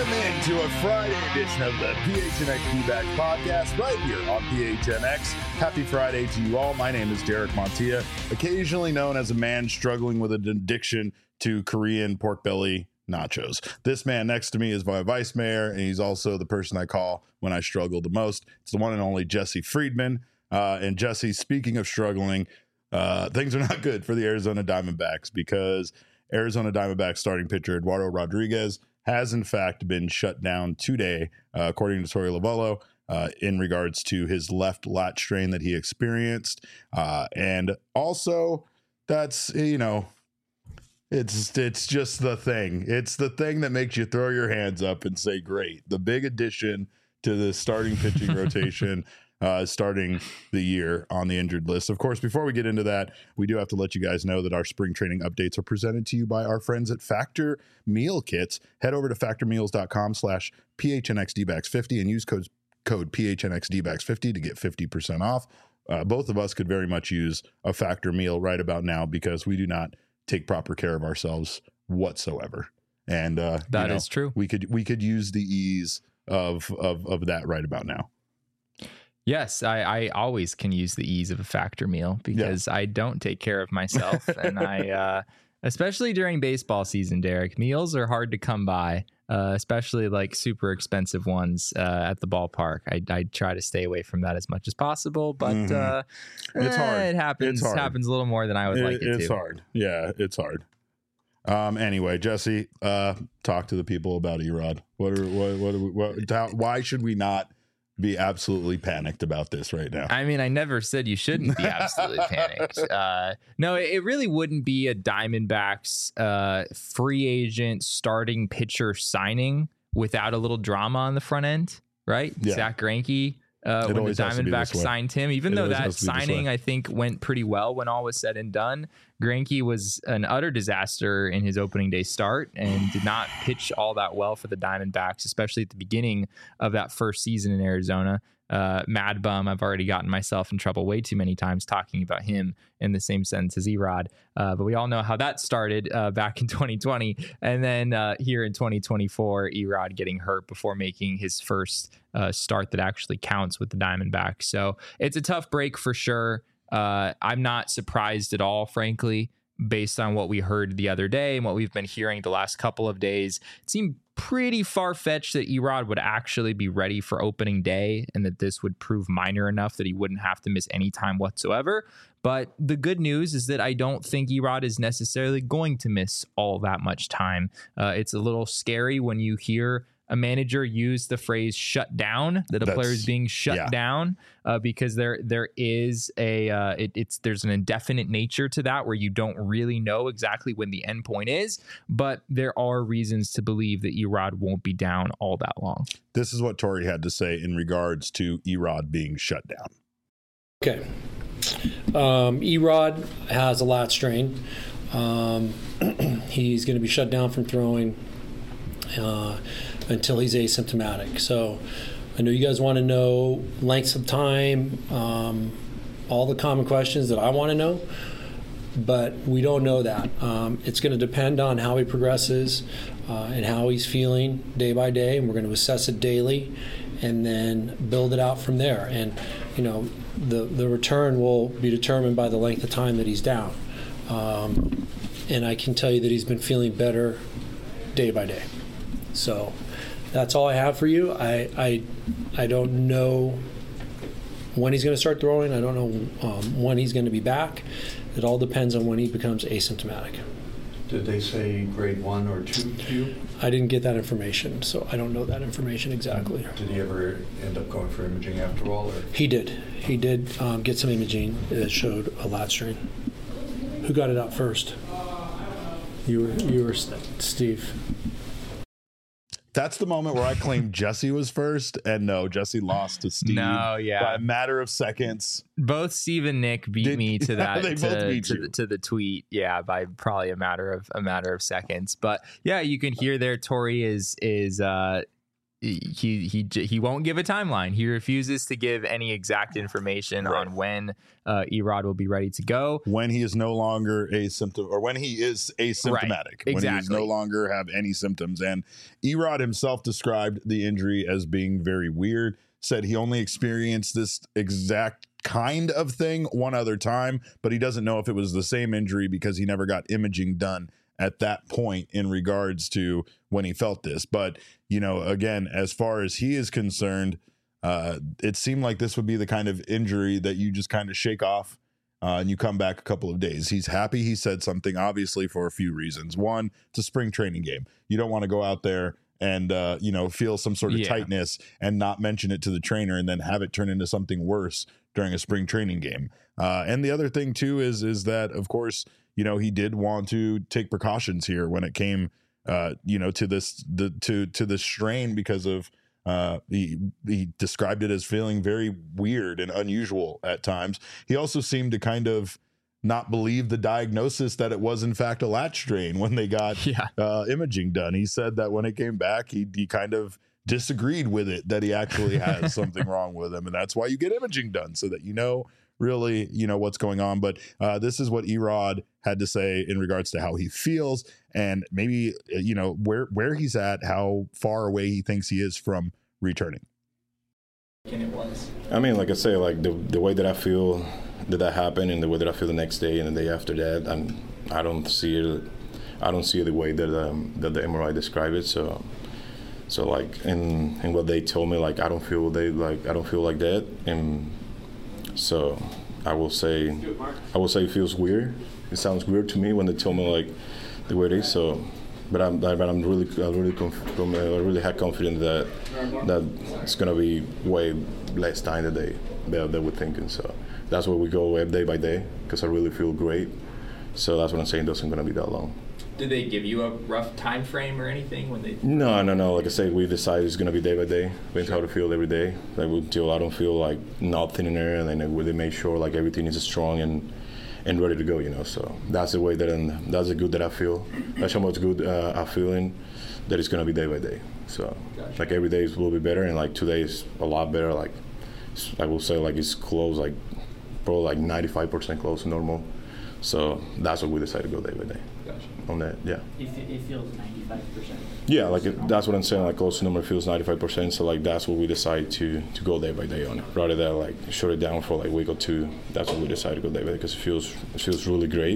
Welcome into a Friday edition of the PHNX D-Backs podcast right here on PHNX. Happy Friday to you all. My name is Derek Montilla, occasionally known as a man struggling with an addiction to Korean pork belly nachos. This man next to me is my vice mayor, and he's also the person I call when I struggle the most. It's the one and only Jesse Friedman. And Jesse, speaking of struggling, things are not good for the Arizona Diamondbacks because Arizona Diamondbacks starting pitcher Eduardo Rodriguez has in fact been shut down today, according to Torey Lovullo, in regards to his left lat strain that he experienced. And also that's, it's just the thing. It's the thing that makes you throw your hands up and say, great, the big addition to the starting pitching rotation starting the year on the injured list. Of course, before we get into that, we do have to let you guys know that our spring training updates are presented to you by our friends at Factor Meal Kits. Head over to factormeals.com/PHNXDBacks50 and use code PHNXDBacks50 to get 50% off. Both of us could very much use a Factor meal right about now because we do not take proper care of ourselves whatsoever. And that is true. We could use the ease of that right about now. Yes, I always can use the ease of a Factor meal because I don't take care of myself. And I, especially during baseball season, Derek, meals are hard to come by, especially like super expensive ones at the ballpark. I try to stay away from that as much as possible, but it's hard. It happens. It happens a little more than I would like it to. It's hard. Yeah, it's hard. Anyway, Jesse, talk to the people about Erod. Why should we not be absolutely panicked about this right now? I mean, I never said you shouldn't be absolutely panicked. No, it really wouldn't be a Diamondbacks free agent starting pitcher signing without a little drama on the front end, right? Yeah. Zach Greinke, when the Diamondbacks signed him, even though that signing I think went pretty well when all was said and done, Greinke was an utter disaster in his opening day start and did not pitch all that well for the Diamondbacks, especially at the beginning of that first season in Arizona. Mad bum. I've already gotten myself in trouble way too many times talking about him in the same sentence as Erod. But we all know how that started back in 2020. And then here in 2024, Erod getting hurt before making his first start that actually counts with the Diamondbacks. So it's a tough break for sure. I'm not surprised at all, frankly, based on what we heard the other day and what we've been hearing the last couple of days. It seemed pretty far-fetched that Erod would actually be ready for opening day and that this would prove minor enough that he wouldn't have to miss any time whatsoever. But the good news is that I don't think Erod is necessarily going to miss all that much time. It's a little scary when you hear a manager use the phrase shut down, that a player is being shut down, because there is there's an indefinite nature to that where you don't really know exactly when the end point is, but there are reasons to believe that Erod won't be down all that long. This is what Torey had to say in regards to Erod being shut down. Okay. Erod has a lat strain. He's going to be shut down from throwing until he's asymptomatic. So I know you guys want to know lengths of time, all the common questions that I want to know, but we don't know that. It's going to depend on how he progresses and how he's feeling day by day, and we're going to assess it daily and then build it out from there. And the return will be determined by the length of time that he's down. And I can tell you that he's been feeling better day by day. So that's all I have for you. I don't know when he's going to start throwing. I don't know when he's going to be back. It all depends on when he becomes asymptomatic. Did they say grade 1 or 2 to you? I didn't get that information, so I don't know that information exactly. Did he ever end up going for imaging after all? Or? He did. He did get some imaging that showed a lat strain. Who got it out first? You were Steve. That's the moment where I claimed Jesse was first, and no, Jesse lost to Steve by a matter of seconds. Both Steve and Nick beat me to that to the tweet, by probably a matter of seconds. But yeah, you can hear there Torey is he won't give a timeline. He refuses to give any exact information on when Erod will be ready to go. When he is no longer when he is asymptomatic. Right, when exactly. he no longer have any symptoms. And Erod himself described the injury as being very weird. Said he only experienced this exact kind of thing one other time, but he doesn't know if it was the same injury because he never got imaging done at that point in regards to when he felt this. But, again, as far as he is concerned, it seemed like this would be the kind of injury that you just kind of shake off and you come back a couple of days. He's happy he said something, obviously, for a few reasons. One, it's a spring training game. You don't want to go out there and, feel some sort of tightness and not mention it to the trainer and then have it turn into something worse during a spring training game. And the other thing, too, is that, of course, he did want to take precautions here when it came, to this strain because of he described it as feeling very weird and unusual at times. He also seemed to kind of not believe the diagnosis that it was in fact a latch strain when they got imaging done. He said that when it came back, he kind of disagreed with it, that he actually has something wrong with him, and that's why you get imaging done so that really what's going on. But this is what Erod had to say in regards to how he feels and maybe where he's at, how far away he thinks he is from returning. And it was, I mean, like I say, like the way that I feel that happened and the way that I feel the next day and the day after that, I don't see it the way that the MRI described it. So like and what they told me, like I don't feel like that. And so I will say it feels weird. It sounds weird to me when they tell me like the way it is. So, but I'm really had confidence that it's gonna be way less time than they were thinking. So that's why we go day by day, because I really feel great. So that's what I'm saying. It doesn't gonna be that long. Did they give you a rough time frame or anything when they? No. Like I said, we decided it's gonna be day by day. We how to feel every day. Like until I don't feel like nothing in there, and then we make sure like everything is strong and ready to go. So that's the way that's the good that I feel. That's how much good I'm feeling. That it's gonna be day by day. So gotcha. Like every day will be better, and like today is a lot better. Like I will say, like it's close, like probably like 95% close to normal. So that's what we decided to go day by day. Gotcha. On that, yeah. It feels 95%. Yeah, like that's what I'm saying. Like close to number feels 95%. So like that's what we decide to go day by day on it, rather than like shut it down for like a week or two. That's what we decided to go day by day because it feels really great.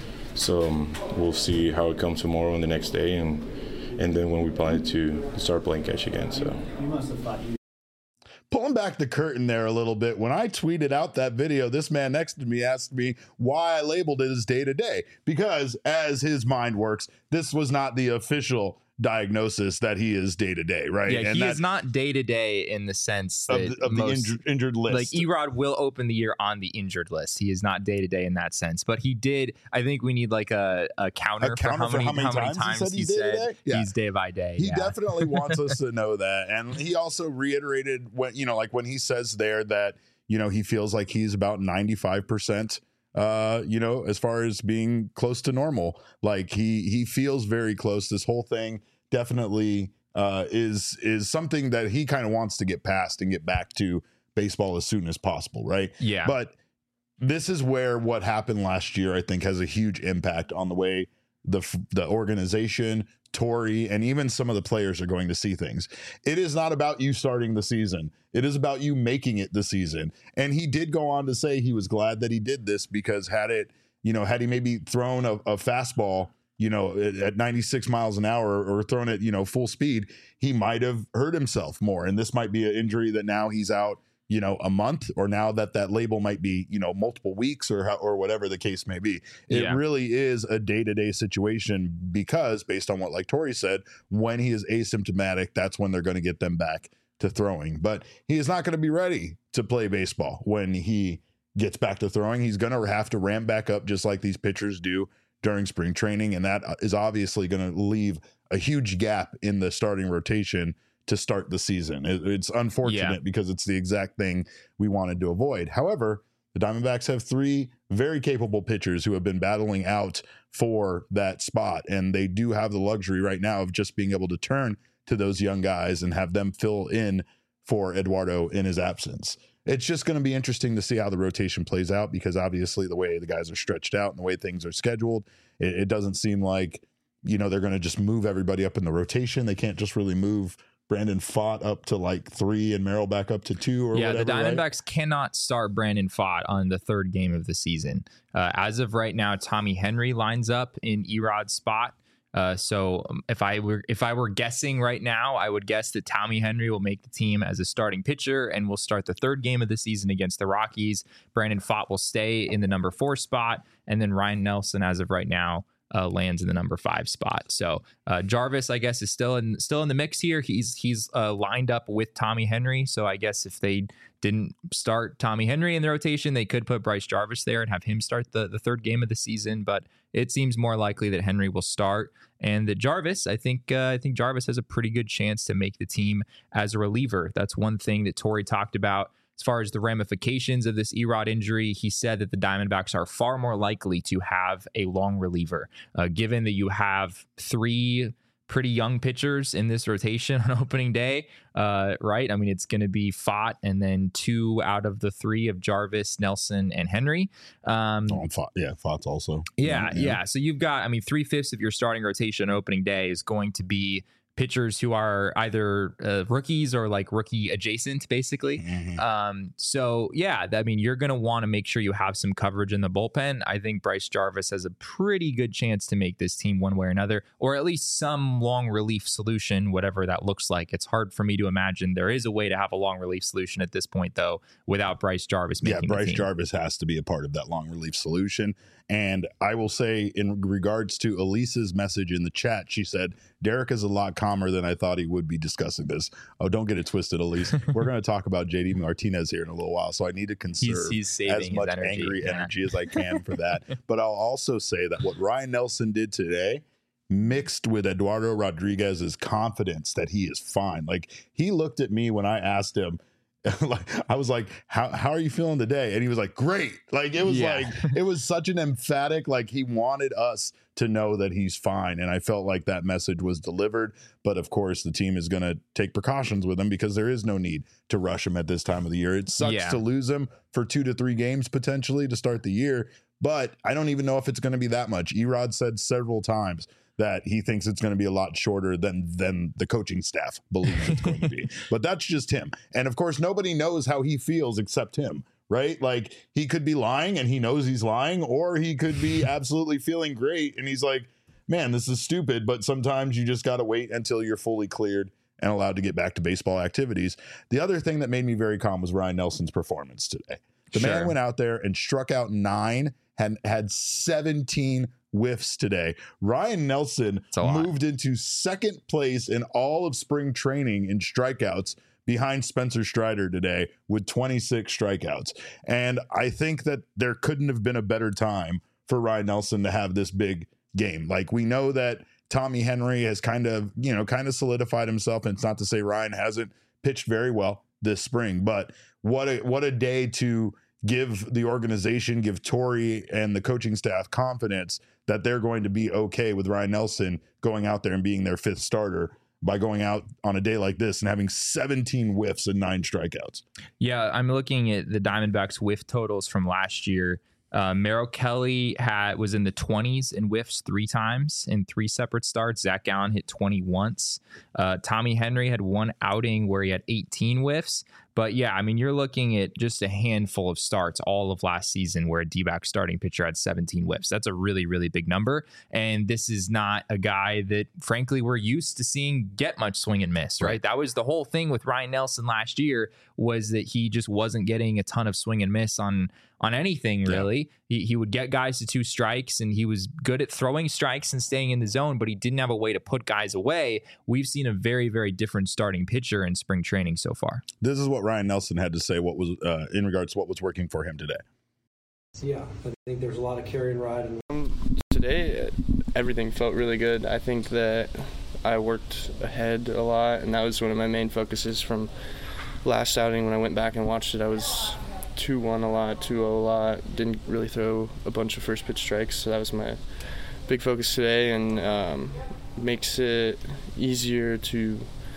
So we'll see how it comes tomorrow and the next day, and then when we plan to start playing catch again. So You must have thought you. Pulling back the curtain there a little bit, when I tweeted out that video, this man next to me asked me why I labeled it as day-to-day. Because as his mind works, this was not the official diagnosis that he is day-to-day, right? Yeah, and he is not day-to-day in the sense that of the injured list. Like Erod will open the year on the injured list. He is not day-to-day in that sense. But he did, I think we need like a counter for how many times he said he's day by day. He definitely wants us to know that. And he also reiterated when he says there that, he feels like he's about 95%, as far as being close to normal. Like he feels very close. This whole thing definitely is something that he kind of wants to get past and get back to baseball as soon as possible, right? Yeah. But this is where what happened last year, I think, has a huge impact on the way the organization, Torey, and even some of the players are going to see things. It is not about you starting the season. It is about you making it the season. And he did go on to say he was glad that he did this because had he maybe thrown a fastball, at 96 miles an hour or thrown it, full speed, he might have hurt himself more. And this might be an injury that now he's out, a month, or now that label might be, multiple weeks or whatever the case may be. It really is a day-to-day situation because based on what like Torey said, when he is asymptomatic, that's when they're going to get them back to throwing. But he is not going to be ready to play baseball when he gets back to throwing. He's going to have to ramp back up just like these pitchers do during spring training. And that is obviously going to leave a huge gap in the starting rotation to start the season. It's unfortunate because it's the exact thing we wanted to avoid. However, the Diamondbacks have 3 very capable pitchers who have been battling out for that spot. And they do have the luxury right now of just being able to turn to those young guys and have them fill in for Eduardo in his absence. It's just going to be interesting to see how the rotation plays out, because obviously the way the guys are stretched out and the way things are scheduled, it doesn't seem like, they're going to just move everybody up in the rotation. They can't just really move Brandon Pfaadt up to like 3 and Merrill back up to 2 or whatever. Yeah, the Diamondbacks right? cannot start Brandon Pfaadt on the third game of the season. As of right now, Tommy Henry lines up in Erod's spot. So if I were guessing right now, I would guess that Tommy Henry will make the team as a starting pitcher and will start the third game of the season against the Rockies. Brandon Pfaadt will stay in the number 4 spot, and then Ryan Nelson, as of right now, lands in the number 5 spot. So Jarvis, I guess, is still in the mix here. He's lined up with Tommy Henry. So I guess if they didn't start Tommy Henry in the rotation, they could put Bryce Jarvis there and have him start the third game of the season. But it seems more likely that Henry will start, and that Jarvis, I think Jarvis has a pretty good chance to make the team as a reliever. That's one thing that Torey talked about. As far as the ramifications of this Erod injury, he said that the Diamondbacks are far more likely to have a long reliever, given that you have 3 pretty young pitchers in this rotation on opening day, right? I mean, it's going to be Pfaadt and then 2 out of the 3 of Jarvis, Nelson, and Henry. Pfaadt's also. Yeah. So you've got, 3/5 of your starting rotation on opening day is going to be pitchers who are either rookies or like rookie adjacent, basically. So yeah, you're going to want to make sure you have some coverage in the bullpen. I think Bryce Jarvis has a pretty good chance to make this team one way or another, or at least some long relief solution, whatever that looks like. It's hard for me to imagine there is a way to have a long relief solution at this point, though, without Bryce Jarvis making the team. Bryce Jarvis has to be a part of that long relief solution. And I will say, in regards to Elise's message in the chat, she said, Derek is a lot calmer than I thought he would be discussing this. Oh, don't get it twisted, Elise. We're going to talk about JD Martinez here in a little while, so I need to conserve as much angry energy as I can for that. But I'll also say that what Ryan Nelson did today, mixed with Eduardo Rodriguez's confidence that he is fine. Like, he looked at me when I asked him, I was like, how are you feeling today? And he was like, great. Like, it was it was such an emphatic, like, he wanted us to know that he's fine. And I felt like that message was delivered. But of course, the team is going to take precautions with him, because there is no need to rush him at this time of the year. It sucks to lose him for 2 to 3 games potentially to start the year, but I don't even know if it's going to be that much. Erod said several times that he thinks it's going to be a lot shorter than the coaching staff believes it's going to be. But that's just him. And of course, nobody knows how he feels except him, right? Like, he could be lying and he knows he's lying, or he could be absolutely feeling great and he's like, man, this is stupid. But sometimes you just got to wait until you're fully cleared and allowed to get back to baseball activities. The other thing that made me very calm was Ryan Nelson's performance today. The man went out there and struck out 9, had 17 whiffs today. Ryan Nelson moved into second place in all of spring training in strikeouts, behind Spencer Strider today with 26 strikeouts. And I think that there couldn't have been a better time for Ryan Nelson to have this big game. Like, we know that Tommy Henry has kind of solidified himself. And it's not to say Ryan hasn't pitched very well this spring, but what a day to give the organization, give Torey and the coaching staff confidence that they're going to be okay with Ryan Nelson going out there and being their 5th starter by going out on a day like this and having 17 whiffs and 9 strikeouts. Yeah, I'm looking at the Diamondbacks whiff totals from last year. Merrill Kelly was in the 20s in whiffs 3 times in 3 separate starts. Zach Gallen hit 20 once. Tommy Henry had 1 outing where he had 18 whiffs. But yeah, I mean, you're looking at just a handful of starts all of last season where a D-back starting pitcher had 17 whiffs. That's a really, really big number. And this is not a guy that, frankly, we're used to seeing get much swing and miss, right? That was the whole thing with Ryan Nelson last year, was that he just wasn't getting a ton of swing and miss on anything, really. He would get guys to 2 strikes, and he was good at throwing strikes and staying in the zone, but he didn't have a way to put guys away. We've seen a very, very different starting pitcher in spring training so far. This is what Ryan Nelson had to say, what was in regards to what was working for him today. Yeah, I think there's a lot of carry and ride. Today, everything felt really good. I think that I worked ahead a lot, and that was one of my main focuses from last outing. When I went back and watched it, I was 2-1 a lot, 2-0 a lot, didn't really throw a bunch of first pitch strikes, so that was my big focus today, and makes it easier to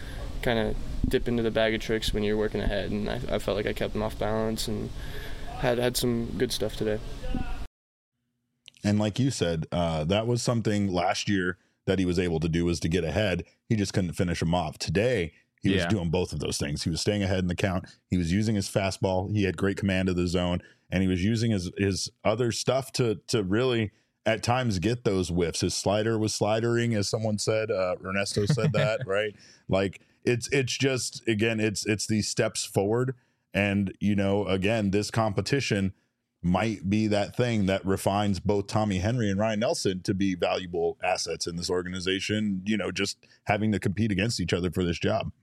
kind of dip into the bag of tricks when you're working ahead, and I felt like I kept them off balance and had some good stuff today. And like you said, that was something last year that he was able to do, was to get ahead. He just couldn't finish them off. Today, he was doing both of those things. He was staying ahead in the count. He was using his fastball. He had great command of the zone, and he was using his other stuff to really at times get those whiffs. His slider was slidering, as someone said. Ernesto said that, right? Like it's just, again, it's these steps forward. And, you know, again, this competition might be that thing that refines both Tommy Henry and Ryan Nelson to be valuable assets in this organization, you know, just having to compete against each other for this job.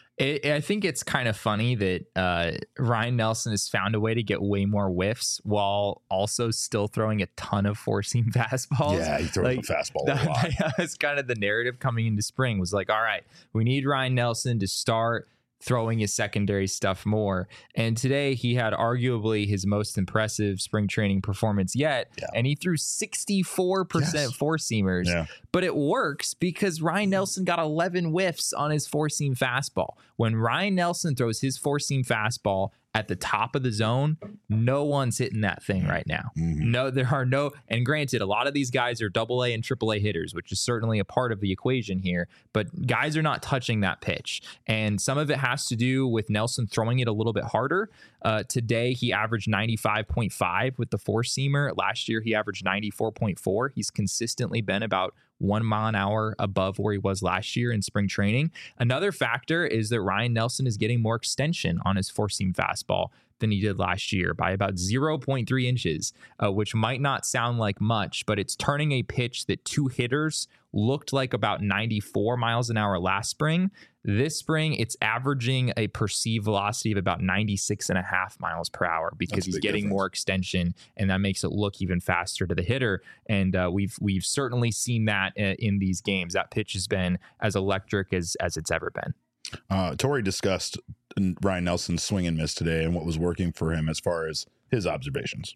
I think it's kind of funny that Ryan Nelson has found a way to get way more whiffs while also still throwing a ton of four-seam fastballs. Yeah, he throws a fastball a lot. That's kind of the narrative coming into spring, was like, all right, we need Ryan Nelson to start throwing his secondary stuff more. And today he had arguably his most impressive spring training performance yet. Yeah. And he threw 64% four-seamers. Yeah. But it works because Ryan Nelson got 11 whiffs on his four-seam fastball. When Ryan Nelson throws his four-seam fastball at the top of the zone, no one's hitting that thing right now. Mm-hmm. No, there are no, and granted, a lot of these guys are AA and AAA hitters, which is certainly a part of the equation here, but guys are not touching that pitch. And some of it has to do with Nelson throwing it a little bit harder. Today, he averaged 95.5 with the four-seamer. Last year, he averaged 94.4. He's consistently been about 1 mile an hour above where he was last year in spring training. Another factor is that Ryan Nelson is getting more extension on his four-seam fastball than he did last year by about 0.3 inches, which might not sound like much, but it's turning a pitch that two hitters looked like about 94 miles an hour last spring. This spring, it's averaging a perceived velocity of about 96.5 miles per hour because he's getting more extension, and that makes it look even faster to the hitter. And we've certainly seen that in these games. That pitch has been as electric as it's ever been. Torey discussed Ryan Nelson's swing and miss today and what was working for him as far as his observations.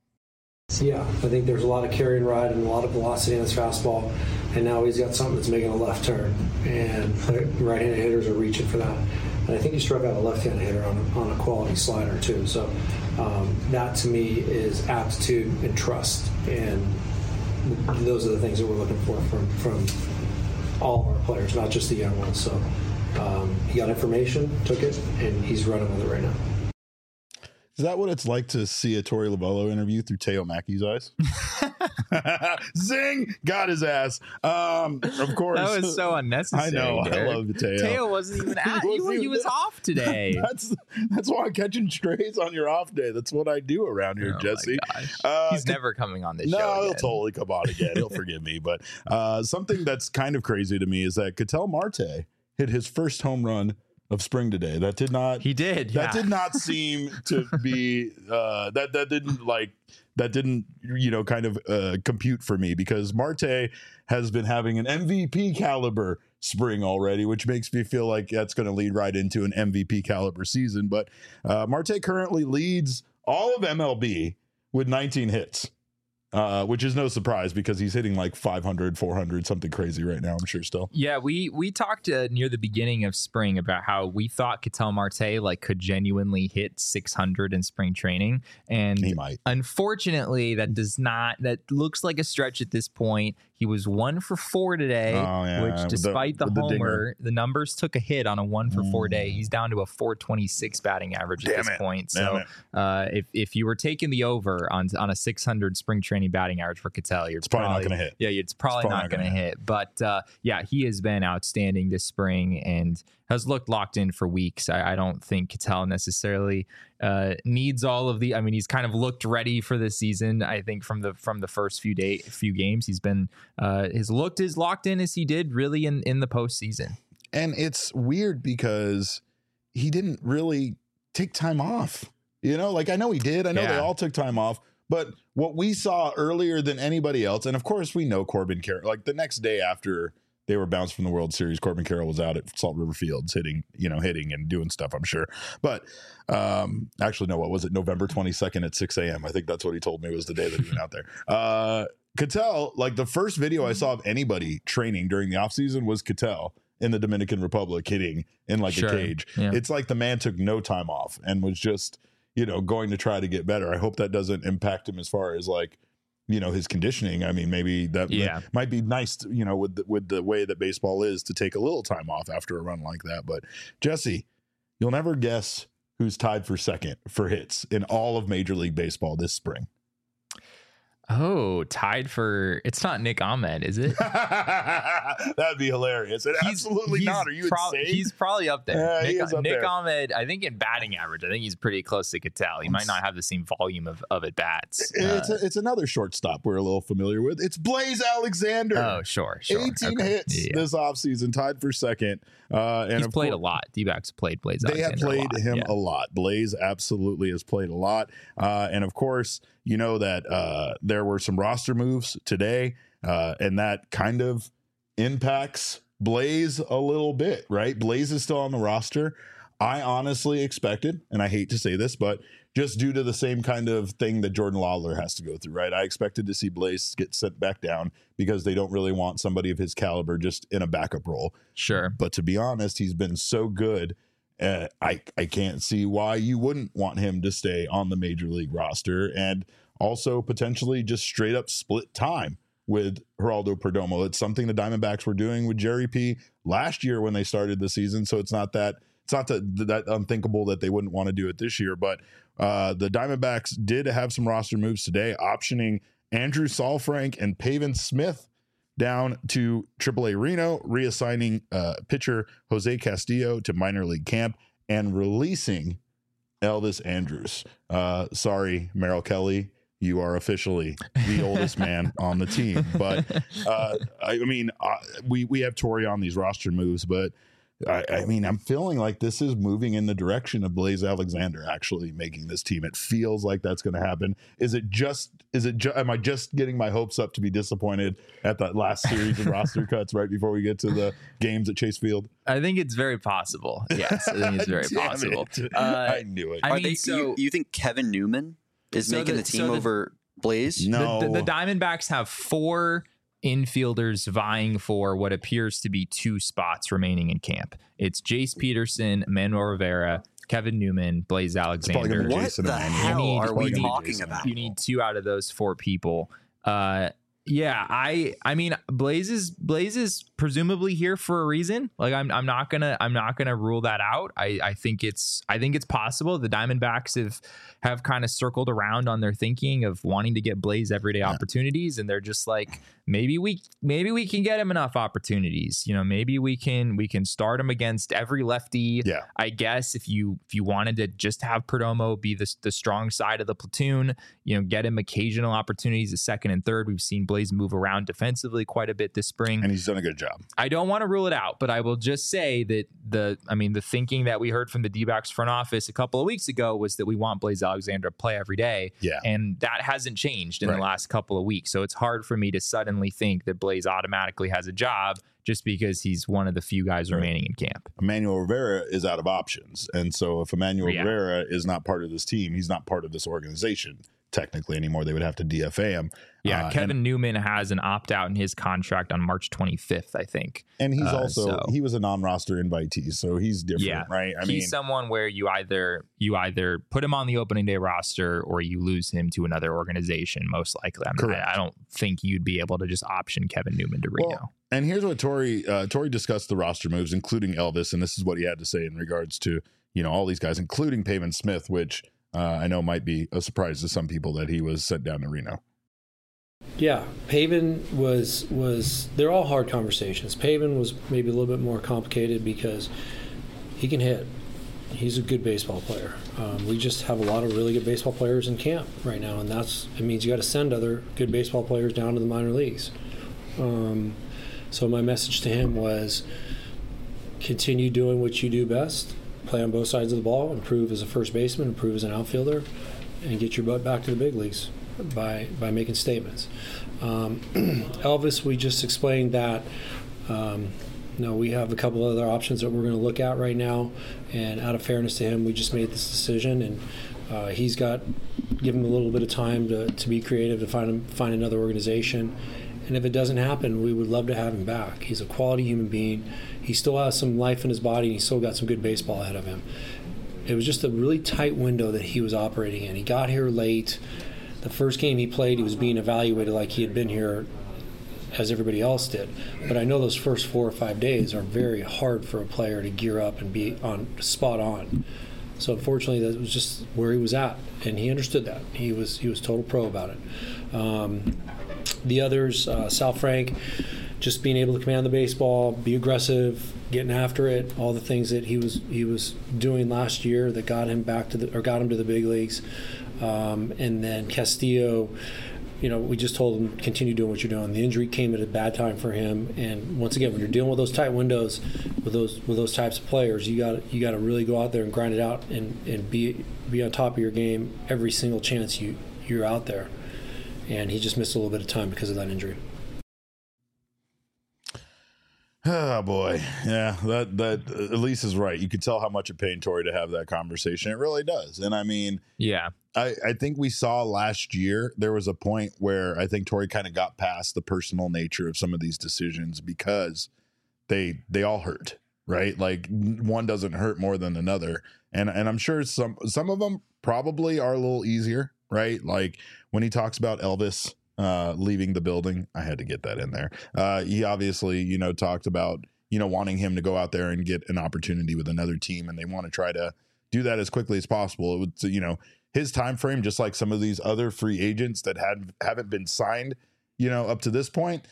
Yeah, I think there's a lot of carry and ride and a lot of velocity in his fastball, and now he's got something that's making a left turn, and right-handed hitters are reaching for that. And I think he struck out a left-handed hitter on a quality slider too. So that to me is aptitude and trust, and those are the things that we're looking for from all of our players, not just the young ones. So he got information, took it, and he's running with it right now. Is that what it's like to see a Torey Lovullo interview through Teo Mackey's eyes? Zing! Got his ass. Of course. That was so unnecessary. I know. Derek. I love Teo. Teo wasn't even at he was off today. That's why I'm catching strays on your off day. That's what I do around here, Jesse. He's never coming on this show. No, he'll again. totally come on again. He'll forgive me. But something that's kind of crazy to me is that Ketel Marte hit his first home run of spring today. That did not seem to be that didn't kind of compute for me, because Marte has been having an MVP caliber spring already, which makes me feel like that's going to lead right into an MVP caliber season. But Marte currently leads all of MLB with 19 hits. Which is no surprise because he's hitting like 500, 400, something crazy right now, I'm sure still. Yeah, we talked near the beginning of spring about how we thought Ketel Marte could genuinely hit 600 in spring training. And he might. Unfortunately, that looks like a stretch at this point. He was 1 for 4 today, which despite the homer, the numbers took a hit on a 1 for 4 day. He's down to a 426 batting average at this point. So if you were taking the over on a 600 spring training batting average for Ketel, it's probably not going to hit. Yeah, it's probably not going to hit. But he has been outstanding this spring and has looked locked in for weeks. I don't think Ketel necessarily needs all of the. I mean, he's kind of looked ready for this season. I think from the first few games, he's been looked as locked in as he did really in the postseason. And it's weird because he didn't really take time off. I know he did. I know they all took time off. But what we saw earlier than anybody else, and of course we know Corbin Carroll, the next day after they were bounced from the World Series, Corbin Carroll was out at Salt River Fields hitting and doing stuff, I'm sure. But actually, no, what was it? November 22nd at 6 a.m. I think that's what he told me was the day that he went out there. Ketel, the first video I saw of anybody training during the offseason was Ketel. in the Dominican Republic hitting in like a cage. Yeah. It's like the man took no time off and was just, going to try to get better. I hope that doesn't impact him as far as like, his conditioning. I mean, maybe that might be nice, with the way that baseball is, to take a little time off after a run like that. But Jesse, you'll never guess who's tied for second for hits in all of Major League Baseball this spring. Oh, tied for, it's not Nick Ahmed, is it? That'd be hilarious. Absolutely not. Are you insane? He's probably up there. Nick there. Ahmed, I think in batting average, I think he's pretty close to Cattell. He might not have the same volume of at bats. It's another shortstop we're a little familiar with. It's Blaze Alexander. Oh, sure. 18 hits this offseason, tied for second. And he's played a lot. D-backs played Blaze Alexander. They have played him a lot. Blaze absolutely has played a lot. And of course, that there were some roster moves today, and that kind of impacts Blaze a little bit, right? Blaze is still on the roster. I honestly expected, and I hate to say this, but just due to the same kind of thing that Jordan Lawler has to go through, right? I expected to see Blaze get sent back down because they don't really want somebody of his caliber just in a backup role. Sure. But to be honest, he's been so good. I can't see why you wouldn't want him to stay on the Major League roster and also potentially just straight up split time with Geraldo Perdomo. It's something the Diamondbacks were doing with Jerry P last year when they started the season. So it's not that unthinkable that they wouldn't want to do it this year. But the Diamondbacks did have some roster moves today, optioning Andrew Saalfrank and Pavin Smith down to AAA Reno, reassigning pitcher Jose Castillo to minor league camp, and releasing Elvis Andrus. Sorry, Merrill Kelly, you are officially the oldest man on the team. But we have Torey on these roster moves, but I'm feeling like this is moving in the direction of Blaze Alexander actually making this team. It feels like that's going to happen. Am I just getting my hopes up to be disappointed at that last series of roster cuts right before we get to the games at Chase Field? I think it's very possible. Yes, I think it's very possible. I knew it. You think Kevin Newman is making the team over Blaze? No. The Diamondbacks have 4 infielders vying for what appears to be 2 spots remaining in camp. It's Jace Peterson, Manuel Rivera, Kevin Newman, Blaze Alexander. What the hell are we talking about? You need 2 out of those 4 people. Blaze is presumably here for a reason. Like I'm not gonna rule that out. I think it's possible. The Diamondbacks have kind of circled around on their thinking of wanting to get Blaze everyday opportunities, and they're just like, maybe we can get him enough opportunities. Maybe we can start him against every lefty. Yeah. I guess if you wanted to just have Perdomo be the strong side of the platoon, get him occasional opportunities at second and third. We've seen Blaze move around defensively quite a bit this spring, and he's done a good job. I don't want to rule it out, but I will just say that the thinking that we heard from the D-backs front office a couple of weeks ago was that we want Blaze Alexander to play every day. Yeah. And that hasn't changed in the last couple of weeks. So it's hard for me to suddenly think that Blaze automatically has a job just because he's one of the few guys remaining in camp. Emmanuel Rivera is out of options. And so if Emmanuel Rivera is not part of this team, he's not part of this organization technically anymore. They would have to DFA him. Yeah, Kevin Newman has an opt-out in his contract on March 25th, I think. And he's he was a non-roster invitee, so he's different, right? He's someone where you either put him on the opening day roster or you lose him to another organization, most likely. I don't think you'd be able to just option Kevin Newman to Reno. Well, and here's what Torey discussed the roster moves, including Elvis, and this is what he had to say in regards to all these guys, including Pavin Smith, which I know might be a surprise to some people that he was sent down to Reno. Yeah, Pavin was they're all hard conversations. Pavin was maybe a little bit more complicated because he can hit. He's a good baseball player. We just have a lot of really good baseball players in camp right now, and it means you got to send other good baseball players down to the minor leagues. So my message to him was continue doing what you do best. Play on both sides of the ball, improve as a first baseman, improve as an outfielder, and get your butt back to the big leagues by making statements. Elvis, we just explained that we have a couple other options that we're going to look at right now, and out of fairness to him, we just made this decision, and give him a little bit of time to be creative, to find another organization, And if it doesn't happen, we would love to have him back. He's a quality human being. He still has some life in his body, and he's still got some good baseball ahead of him. It was just a really tight window that he was operating in. He got here late. The first game he played, he was being evaluated like he had been here as everybody else did. But I know those first 4 or 5 days are very hard for a player to gear up and be on spot on. So unfortunately, that was just where he was at, and he understood that. He was total pro about it. The others, Sal Frank, just being able to command the baseball, be aggressive, getting after it, all the things that he was doing last year that got him to the big leagues. And then Castillo, we just told him continue doing what you're doing. The injury came at a bad time for him, and once again, when you're dealing with those tight windows with those types of players, you got to really go out there and grind it out and be on top of your game every single chance you're out there. And he just missed a little bit of time because of that injury. Oh boy, yeah, that Elise is right. You could tell how much it pained Torey to have that conversation. It really does, and I mean, yeah, I think we saw last year there was a point where I think Torey kind of got past the personal nature of some of these decisions because they all hurt, right? Like one doesn't hurt more than another, and I'm sure some of them probably are a little easier, right? Like when he talks about Elvis leaving the building, I had to get that in there. He obviously, talked about, wanting him to go out there and get an opportunity with another team, and they want to try to do that as quickly as possible. It would, his time frame, just like some of these other free agents that haven't been signed, up to this point,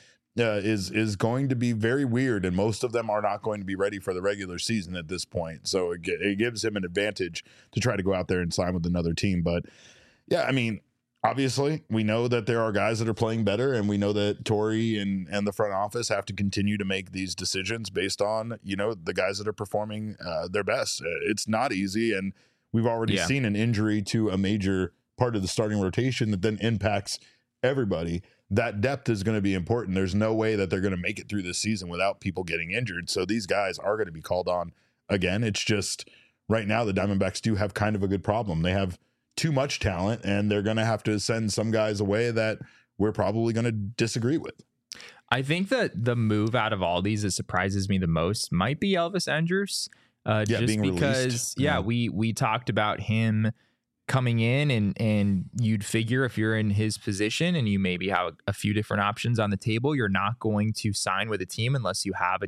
is going to be very weird, and most of them are not going to be ready for the regular season at this point. So it gives him an advantage to try to go out there and sign with another team. But yeah, I mean, obviously, we know that there are guys that are playing better, and we know that Torey and the front office have to continue to make these decisions based on, the guys that are performing their best. It's not easy, and we've already seen an injury to a major part of the starting rotation that then impacts everybody. That depth is going to be important. There's no way that they're going to make it through this season without people getting injured. So these guys are going to be called on again. It's just right now the Diamondbacks do have kind of a good problem. They have too much talent, and they're going to have to send some guys away that we're probably going to disagree with. I think that the move out of all these that surprises me the most might be Elvis Andrus. Just being because, released. we talked about him coming in, and you'd figure if you're in his position and you maybe have a few different options on the table, you're not going to sign with a team unless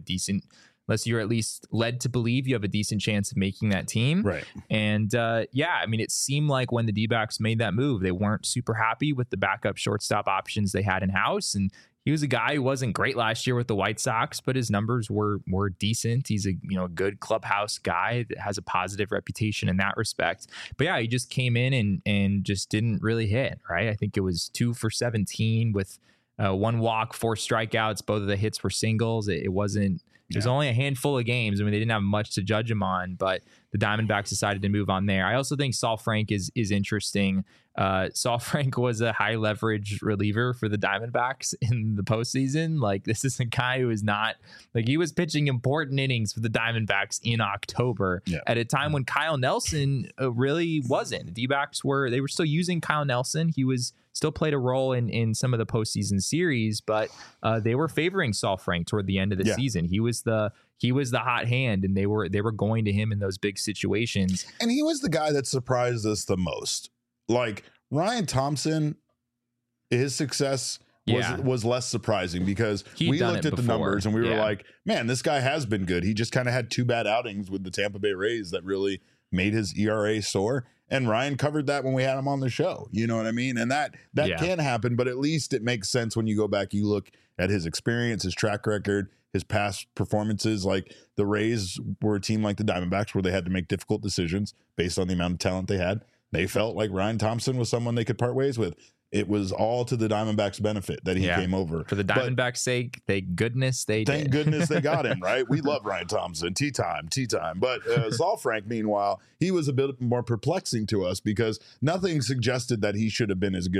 you're at least led to believe you have a decent chance of making that team. Right. And I mean, it seemed like when the D-backs made that move, they weren't super happy with the backup shortstop options they had in house. And he was a guy who wasn't great last year with the White Sox, but his numbers were decent. He's a good clubhouse guy that has a positive reputation in that respect. But yeah, he just came in and just didn't really hit, right? I think it was 2 for 17 with 1 walk, 4 strikeouts. Both of the hits were singles. It wasn't. There's only a handful of games. I mean, they didn't have much to judge him on, but the Diamondbacks decided to move on there. I also think Sal Frank is interesting. Sal Frank was a high leverage reliever for the Diamondbacks in the postseason. Like, this is a guy who is not like, he was pitching important innings for the Diamondbacks in October at a time when Kyle Nelson really wasn't. The D-backs were still using Kyle Nelson. He was still played a role in some of the postseason series, but they were favoring Sal Frank toward the end of the season. He was the hot hand, and they were going to him in those big situations. And he was the guy that surprised us the most. Like Ryan Thompson, his success was less surprising because we looked at the numbers and we were like, man, this guy has been good. He just kind of had 2 bad outings with the Tampa Bay Rays that really made his ERA soar. And Ryan covered that when we had him on the show. You know what I mean? And that can happen, but at least it makes sense when you go back, you look at his experience, his track record, his past performances. Like the Rays were a team like the Diamondbacks where they had to make difficult decisions based on the amount of talent they had. They felt like Ryan Thompson was someone they could part ways with. It was all to the Diamondbacks' benefit that he came over. For the Diamondbacks' sake, thank goodness they got him, right? We love Ryan Thompson. Tea time. But Sal Frank, meanwhile, he was a bit more perplexing to us because nothing suggested that he should have been as good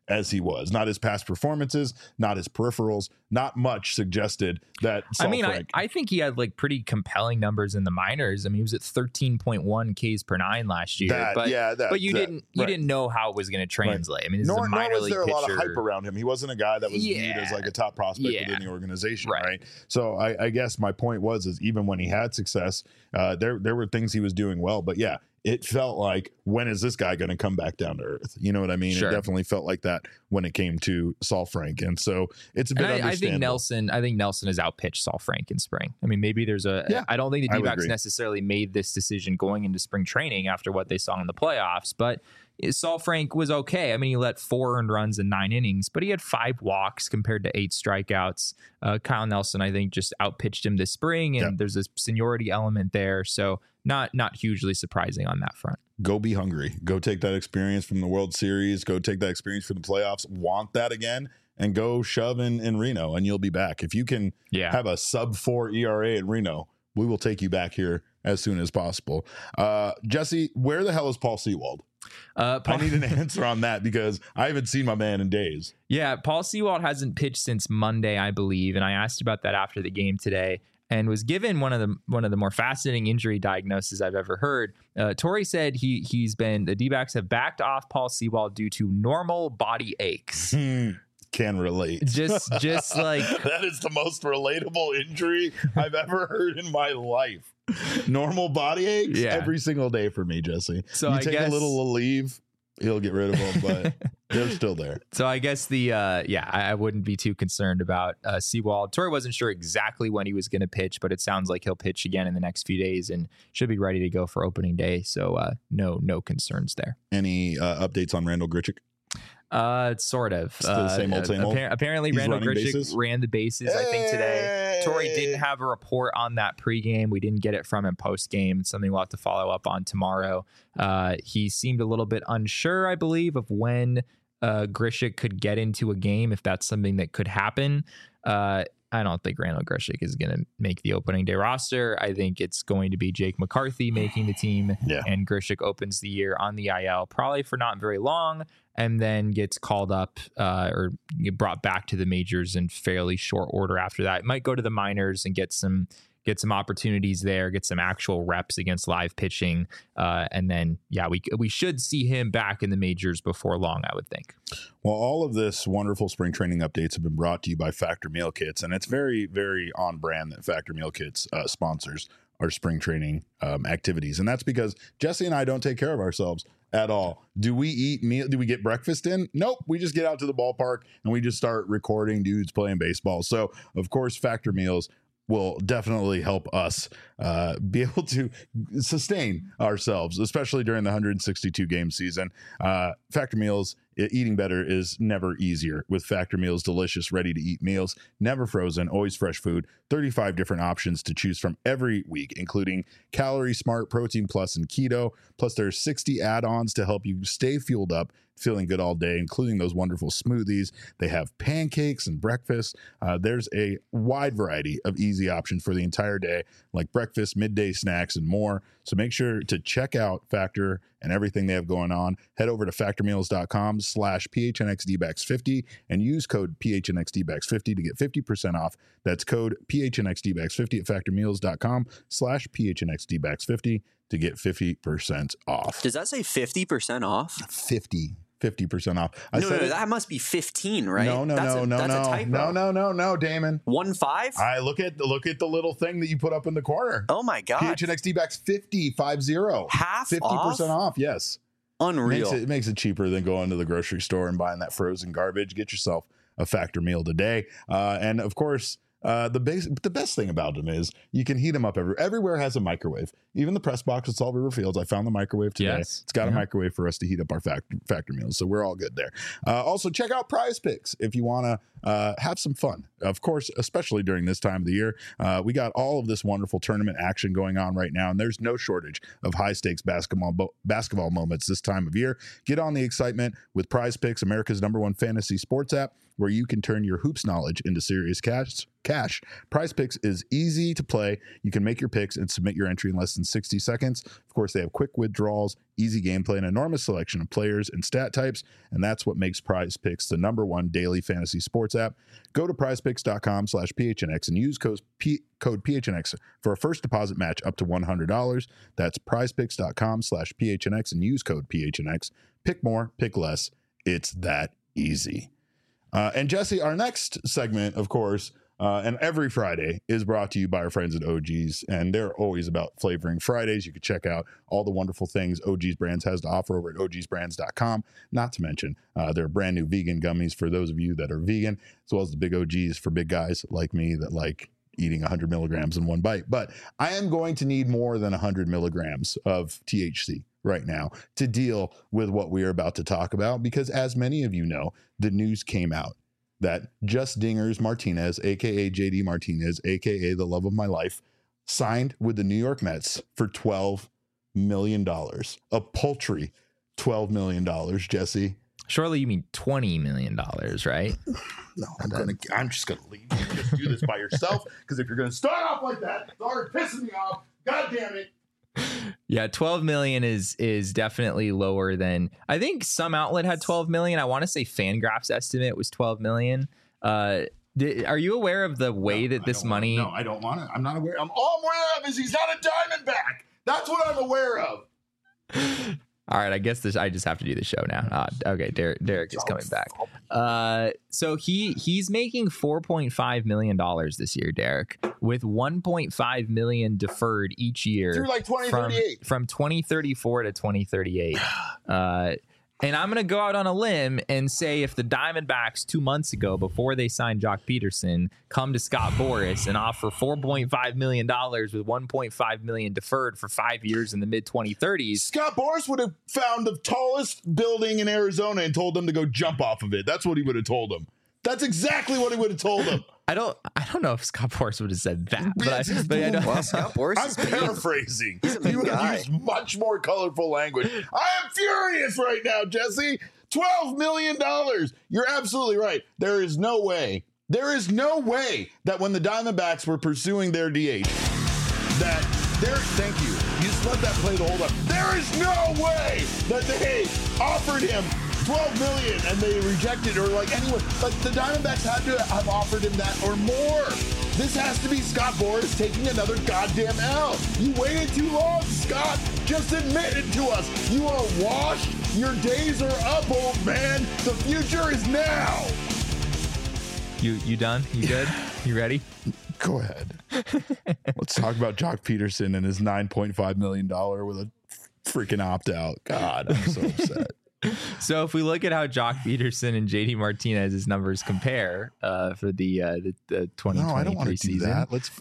as he was. Not his past performances, not his peripherals, not much suggested that Saalfrank. I think he had like pretty compelling numbers in the minors. I mean, he was at 13.1 Ks per 9 last year. But you didn't know how it was going to translate. Right. I mean, this is a minor league pitcher. Nor was there a lot of hype around him. He wasn't a guy that was viewed as like a top prospect within the organization, right? So I guess my point is even when he had success, there were things he was doing well. But yeah, it felt like, when is this guy going to come back down to earth? You know what I mean? Sure. It definitely felt like that when it came to Saalfrank. And so it's a bit understandable. I think Nelson has outpitched Saalfrank in spring. I mean, maybe there's I don't think the D-backs necessarily made this decision going into spring training after what they saw in the playoffs, but Saalfrank was okay. I mean, he let 4 earned runs in 9 innings, but he had 5 walks compared to 8 strikeouts. Kyle Nelson, I think, just outpitched him this spring, and there's this seniority element there. So not hugely surprising on that front. Go be hungry. Go take that experience from the World Series. Go take that experience from the playoffs. Want that again? And go shove in Reno, and you'll be back. If you can have a sub-4 ERA in Reno, we will take you back here as soon as possible. Jesse, where the hell is Paul Sewald? I need an answer on that because I haven't seen my man in days. Yeah, Paul Sewald hasn't pitched since Monday, I believe, and I asked about that after the game today and was given one of the more fascinating injury diagnoses I've ever heard. Torrey said the D-backs have backed off Paul Sewald due to normal body aches. Can relate. Just like that is the most relatable injury I've ever heard in my life. Normal body aches every single day for me, Jesse. So you take a little leave, he'll get rid of them, but they're still there. So I guess I wouldn't be too concerned about Sewald. Torrey wasn't sure exactly when he was going to pitch, but it sounds like he'll pitch again in the next few days and should be ready to go for opening day. So no concerns there. Any updates on Randall Grichuk? Sort of. Still the same old. Apparently, Randall Grichuk ran the bases, I think, today. Torrey didn't have a report on that pregame. We didn't get it from him postgame. It's something we'll have to follow up on tomorrow. He seemed a little bit unsure, I believe, of when Grichuk could get into a game, if that's something that could happen. I don't think Randall Grichuk is going to make the opening day roster. I think it's going to be Jake McCarthy making the team, and Grichuk opens the year on the IL, probably for not very long, and then gets called up or brought back to the majors in fairly short order after that. Might go to the minors and get some opportunities there, get some actual reps against live pitching. And then, we should see him back in the majors before long, I would think. Well, all of this wonderful spring training updates have been brought to you by Factor Meal Kits, and it's very, very on brand that Factor Meal Kits sponsors our spring training activities. And that's because Jesse and I don't take care of ourselves at all. Do we eat meal? Do we get breakfast in? Nope. We just get out to the ballpark and we just start recording dudes playing baseball. So, of course, Factor Meals will definitely help us be able to sustain ourselves, especially during the 162 game season. Factor Meals, eating better is never easier with Factor Meals, delicious, ready to eat meals, never frozen, always fresh food, 35 different options to choose from every week, including Calorie Smart, Protein Plus, and Keto. Plus, there's 60 add-ons to help you stay fueled up, feeling good all day, including those wonderful smoothies. They have pancakes and breakfast. There's a wide variety of easy options for the entire day, like breakfast, midday snacks, and more. So make sure to check out Factor and everything they have going on. Head over to factormeals.com/PHNXDBacks50 and use code PHNXDBacks50 to get 50% off. That's code PHNXDBacks50 at factormeals.com/PHNXDBacks50 to get 50% off. Does that say 50% off? 50% off. No, that must be 15, right? No, that's a typo. No, Damon. 15? I look at the little thing that you put up in the corner. Oh my god. PHNXDBacks 50. Half 50% off, yes. Unreal. It makes it cheaper than going to the grocery store and buying that frozen garbage. Get yourself a Factor meal today. And of course, the best thing about them is you can heat them up everywhere has a microwave. Even the press box at Salt River Fields, I found the microwave today. Yes. It's got a microwave for us to heat up our factor meals, so we're all good there. Also, check out Prize Picks if you want to have some fun. Of course, especially during this time of the year, we got all of this wonderful tournament action going on right now, and there's no shortage of high-stakes basketball moments this time of year. Get on the excitement with Prize Picks, America's #1 fantasy sports app, where you can turn your hoops knowledge into serious cash. Prize Picks is easy to play. You can make your picks and submit your entry in less than 60 seconds. Of course, they have quick withdrawals, easy gameplay, and enormous selection of players and stat types, and that's what makes Prize Picks the #1 daily fantasy sports app. Go to prizepicks.com/PHNX and use code PHNX for a first deposit match up to $100. That's prizepicks.com/PHNX and use code PHNX. Pick more, pick less. It's that easy. And Jesse, our next segment, of course, and every Friday is brought to you by our friends at OG's, and they're always about flavoring Fridays. You can check out all the wonderful things OG's Brands has to offer over at ogsbrands.com, not to mention their brand new vegan gummies for those of you that are vegan, as well as the big OG's for big guys like me that like eating 100 milligrams in one bite. But I am going to need more than 100 milligrams of THC right now to deal with what we are about to talk about, because as many of you know, the news came out that Just Dingers Martinez, aka JD Martinez, aka the love of my life, signed with the New York Mets for $12 million. A paltry $12 million, Jesse. Surely you mean $20 million, right? No, I'm just gonna leave you to just do this by yourself, because if you're gonna start off like that, it's already pissing me off. God damn it. Yeah, 12 million is definitely lower than, I think some outlet had 12 million. I want to say Fangraphs estimate was 12 million. Are you aware of the way that this money? No, I don't want to. I'm not aware. All I'm aware of is he's not a Diamondback. That's what I'm aware of. All right, I guess I just have to do the show now. Okay, Derek is coming back. So he's making $4.5 million this year, Derek, with $1.5 million deferred each year through like 2038, from 2034 to 2038. And I'm going to go out on a limb and say if the Diamondbacks 2 months ago, before they signed Jock Peterson, come to Scott Boras and offer $4.5 million with $1.5 million deferred for 5 years in the mid-2030s. Scott Boras would have found the tallest building in Arizona and told them to go jump off of it. That's what he would have told them. That's exactly what he would have told them. I don't know if Scott Boras would have said that, but I know. Well, Scott Boras I'm paraphrasing. He's a big guy. Use much more colorful language. I am furious right now, Jesse. $12 million. You're absolutely right. There is no way that when the Diamondbacks were pursuing their DH, thank you. You just let that play the whole time. There is no way that they offered him $12 million and they rejected, or like anyone, like the Diamondbacks had to have offered him that or more. This has to be Scott Boras taking another goddamn L. You waited too long, Scott. Just admit it to us. You are washed. Your days are up, old man. The future is now. You done? You good? You ready? Go ahead. Let's talk about Jock Peterson and his $9.5 million with a freaking opt-out. God, I'm so upset. So if we look at how Jock Peterson and JD Martinez's numbers compare for the 2023 no, I don't want to season, do that. Let's.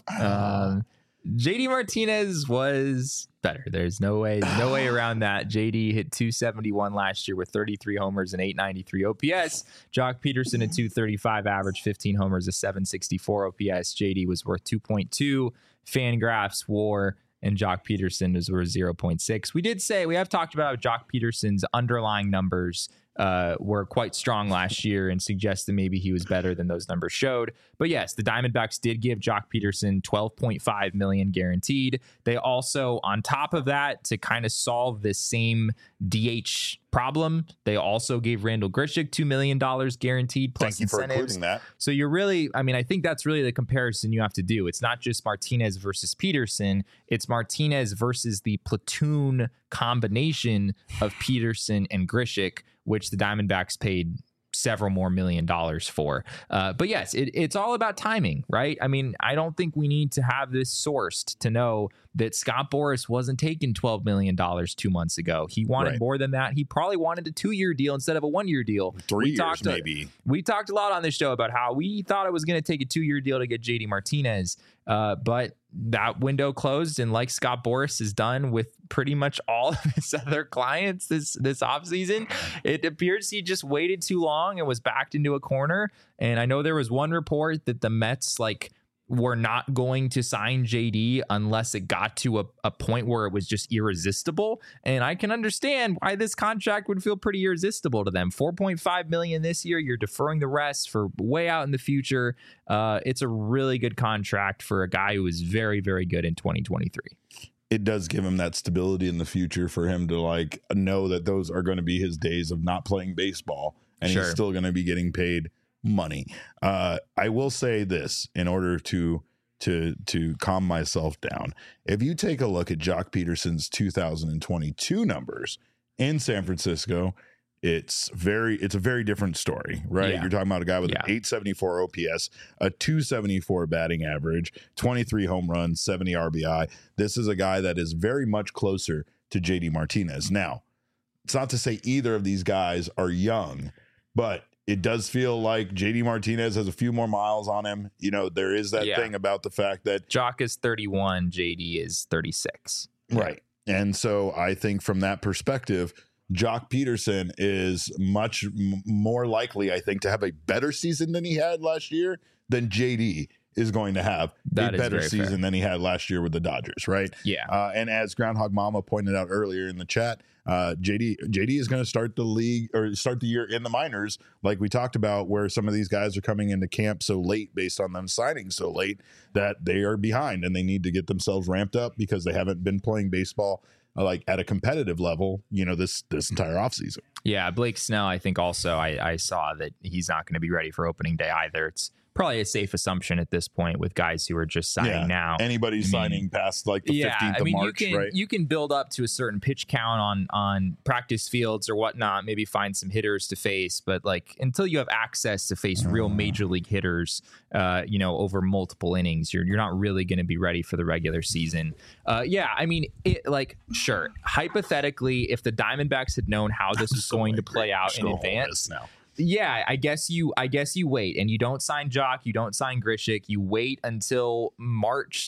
JD Martinez was better. There's no way around that. JD hit 271 last year with 33 homers and 893 OPS. Jock Peterson at 235 average, 15 homers, a 764 OPS. JD was worth 2.2. Fangraphs WAR and Jock Peterson was worth 0.6. We have talked about how Jock Peterson's underlying numbers were quite strong last year and suggest that maybe he was better than those numbers showed. But yes, the Diamondbacks did give Jock Peterson $12.5 million guaranteed. They also, on top of that, to kind of solve this same DH problem, they also gave Randall Grichuk $2 million guaranteed plus Thank you for incentives. including that. So you're really, I think that's really the comparison you have to do. It's not just Martinez versus Peterson. It's Martinez versus the platoon combination of Peterson and Grichuk, which the Diamondbacks paid several more $1 million for. But yes, it's all about timing, right? I mean, I don't think we need to have this sourced to know that Scott Boras wasn't taking $12 million 2 months ago. He wanted more than that. He probably wanted a 2-year deal instead of a 1-year deal. 3 years, maybe. We talked a lot on this show about how we thought it was going to take a 2-year deal to get JD Martinez. But that window closed, and like Scott Boras has done with pretty much all of his other clients this offseason, it appears he just waited too long and was backed into a corner. And I know there was one report that the Mets were not going to sign JD unless it got to a point where it was just irresistible. And I can understand why this contract would feel pretty irresistible to them. $4.5 million this year. You're deferring the rest for way out in the future. It's a really good contract for a guy who is very, very good in 2023. it does give him that stability in the future for him to like know that those are going to be his days of not playing baseball, and he's still going to be getting paid money. I will say this in order to calm myself down. If you take a look at Jock Peterson's 2022 numbers in San Francisco, it's a very different story, right? You're talking about a guy with an 874 OPS, a 274 batting average, 23 home runs, 70 RBI. This is a guy that is very much closer to JD Martinez. Now, it's not to say either of these guys are young, but it does feel like JD Martinez has a few more miles on him. You know, there is that thing about the fact that Jock is 31, JD is 36. Right. And so I think from that perspective, Jock Peterson is much more likely, I think, to have a better season than he had last year than JD is going to have a better season than he had last year with the Dodgers, right? Yeah. And as Groundhog Mama pointed out earlier in the chat, JD is going to start the year in the minors, like we talked about, where some of these guys are coming into camp so late based on them signing so late that they are behind and they need to get themselves ramped up because they haven't been playing baseball like at a competitive level, you know, this entire offseason. Yeah, Blake Snell, I think also I saw that he's not going to be ready for opening day either. It's probably a safe assumption at this point with guys who are just signing now. Anybody signing past like the 15th of March, right? You can build up to a certain pitch count on practice fields or whatnot, maybe find some hitters to face, but like until you have access to face real major league hitters, you know, over multiple innings, you're not really going to be ready for the regular season. I mean, sure, hypothetically, if the Diamondbacks had known how this was going to play out in advance now. Yeah, I guess you wait and you don't sign Jock, you don't sign Grichuk, you wait until March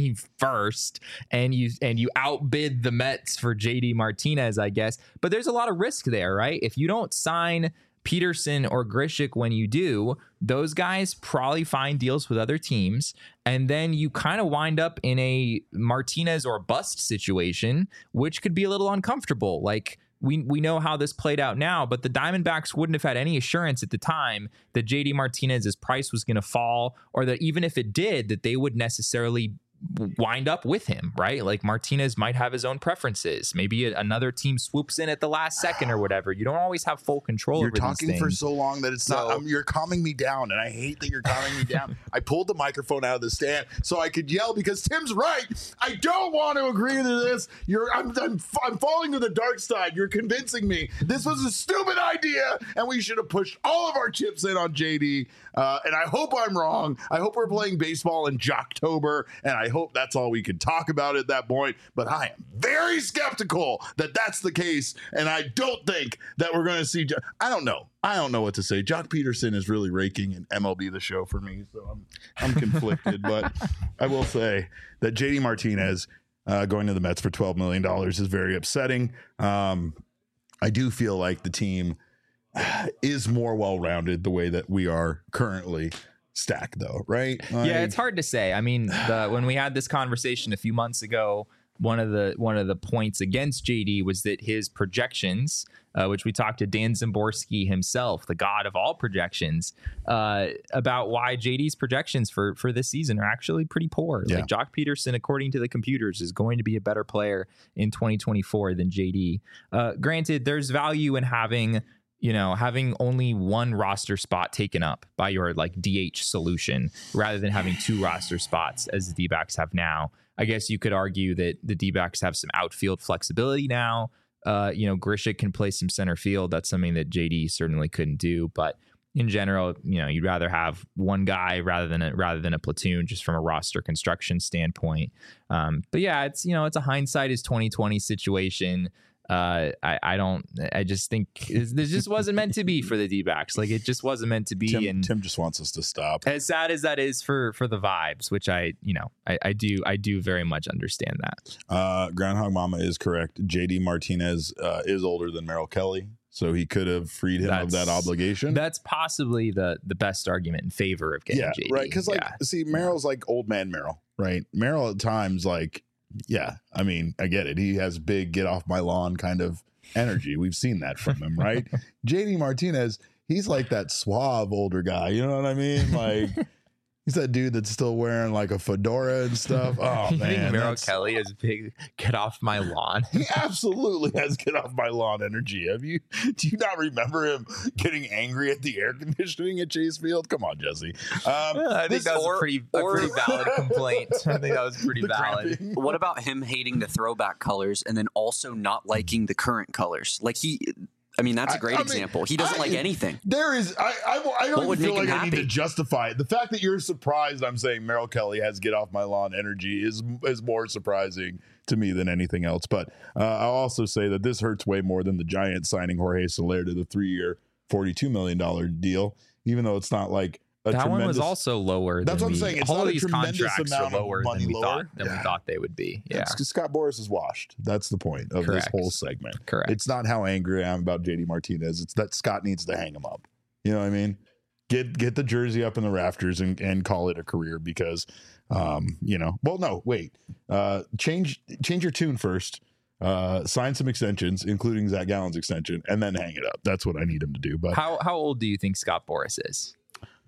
21st and you outbid the Mets for JD Martinez, I guess. But there's a lot of risk there, right? If you don't sign Peterson or Grichuk when you do, those guys probably find deals with other teams, and then you kind of wind up in a Martinez or bust situation, which could be a little uncomfortable. Like, we know how this played out now, but the Diamondbacks wouldn't have had any assurance at the time that JD Martinez's price was going to fall, or that even if it did, that they would necessarily wind up with him, right? Like Martinez might have his own preferences. Maybe another team swoops in at the last second or whatever. You don't always have full control. You're over talking these for things. so long that it's not. You're calming me down, and I hate that you're calming me down. I pulled the microphone out of the stand so I could yell because Tim's right. I don't want to agree to this. I'm falling to the dark side. You're convincing me this was a stupid idea, and we should have pushed all of our chips in on JD. And I hope I'm wrong. I hope we're playing baseball in Jocktober, and I hope that's all we can talk about at that point. But I am very skeptical that that's the case, and I don't think that we're going to see. I don't know what to say. Jock Peterson is really raking in MLB The Show for me, so I'm conflicted. But I will say that JD Martinez going to the Mets for $12 million is very upsetting. I do feel like the team is more well-rounded the way that we are currently stacked, though, right? Yeah, it's hard to say. I mean, when we had this conversation a few months ago, one of the points against JD was that his projections, which we talked to Dan Szymborski himself, the god of all projections, about why JD's projections for this season are actually pretty poor. Yeah. Like Jock Peterson, according to the computers, is going to be a better player in 2024 than JD. Granted, there's value in having only one roster spot taken up by your like DH solution rather than having two roster spots as the D-backs have now. I guess you could argue that the D-backs have some outfield flexibility now. Grichuk can play some center field. That's something that JD certainly couldn't do. But in general, you'd rather have one guy rather than a platoon, just from a roster construction standpoint. But yeah, it's a hindsight is 2020 situation. I just think this just wasn't meant to be for the D-backs. Like, it just wasn't meant to be. Tim just wants us to stop. As sad as that is for the vibes, which I do very much understand that. Groundhog Mama is correct. JD Martinez is older than Merrill Kelly, so he could have freed him of that obligation. That's possibly the best argument in favor of getting JD. Right, because see, Merrill's like old man Merrill, right? Merrill at times, like, yeah, I mean, I get it. He has big get off my lawn kind of energy. We've seen that from him, right? JD Martinez, he's like that suave older guy. You know what I mean? Like, He's that dude that's still wearing like a fedora and stuff. Oh You man, think Merrill Kelly is big? Get off my lawn. he absolutely has get off my lawn energy. Do you not remember him getting angry at the air conditioning at Chase Field? Come on, Jesse. I think that was a pretty valid complaint. I think that was pretty valid. Cramping. What about him hating the throwback colors and then also not liking the current colors? Like that's a great example. He doesn't like anything. There is, I don't even feel like I need to justify it. The fact that you're surprised I'm saying Merrill Kelly has get off my lawn energy is more surprising to me than anything else. But I'll also say that this hurts way more than the Giants signing Jorge Soler to the 3-year, $42 million deal, even though it's not like that one was also lower. That's what I'm saying. It's all not of these a tremendous contracts are amount of lower money than we lower. thought they would be. Yeah, because Scott Boras is washed. That's the point of Correct. this whole segment. Correct. It's not how angry I am about JD Martinez. It's that Scott needs to hang him up. You know what I mean? Get the jersey up in the rafters and call it a career because, well, no, wait. Change your tune first. Sign some extensions, including Zach Gallen's extension, and then hang it up. That's what I need him to do. But how old do you think Scott Boras is?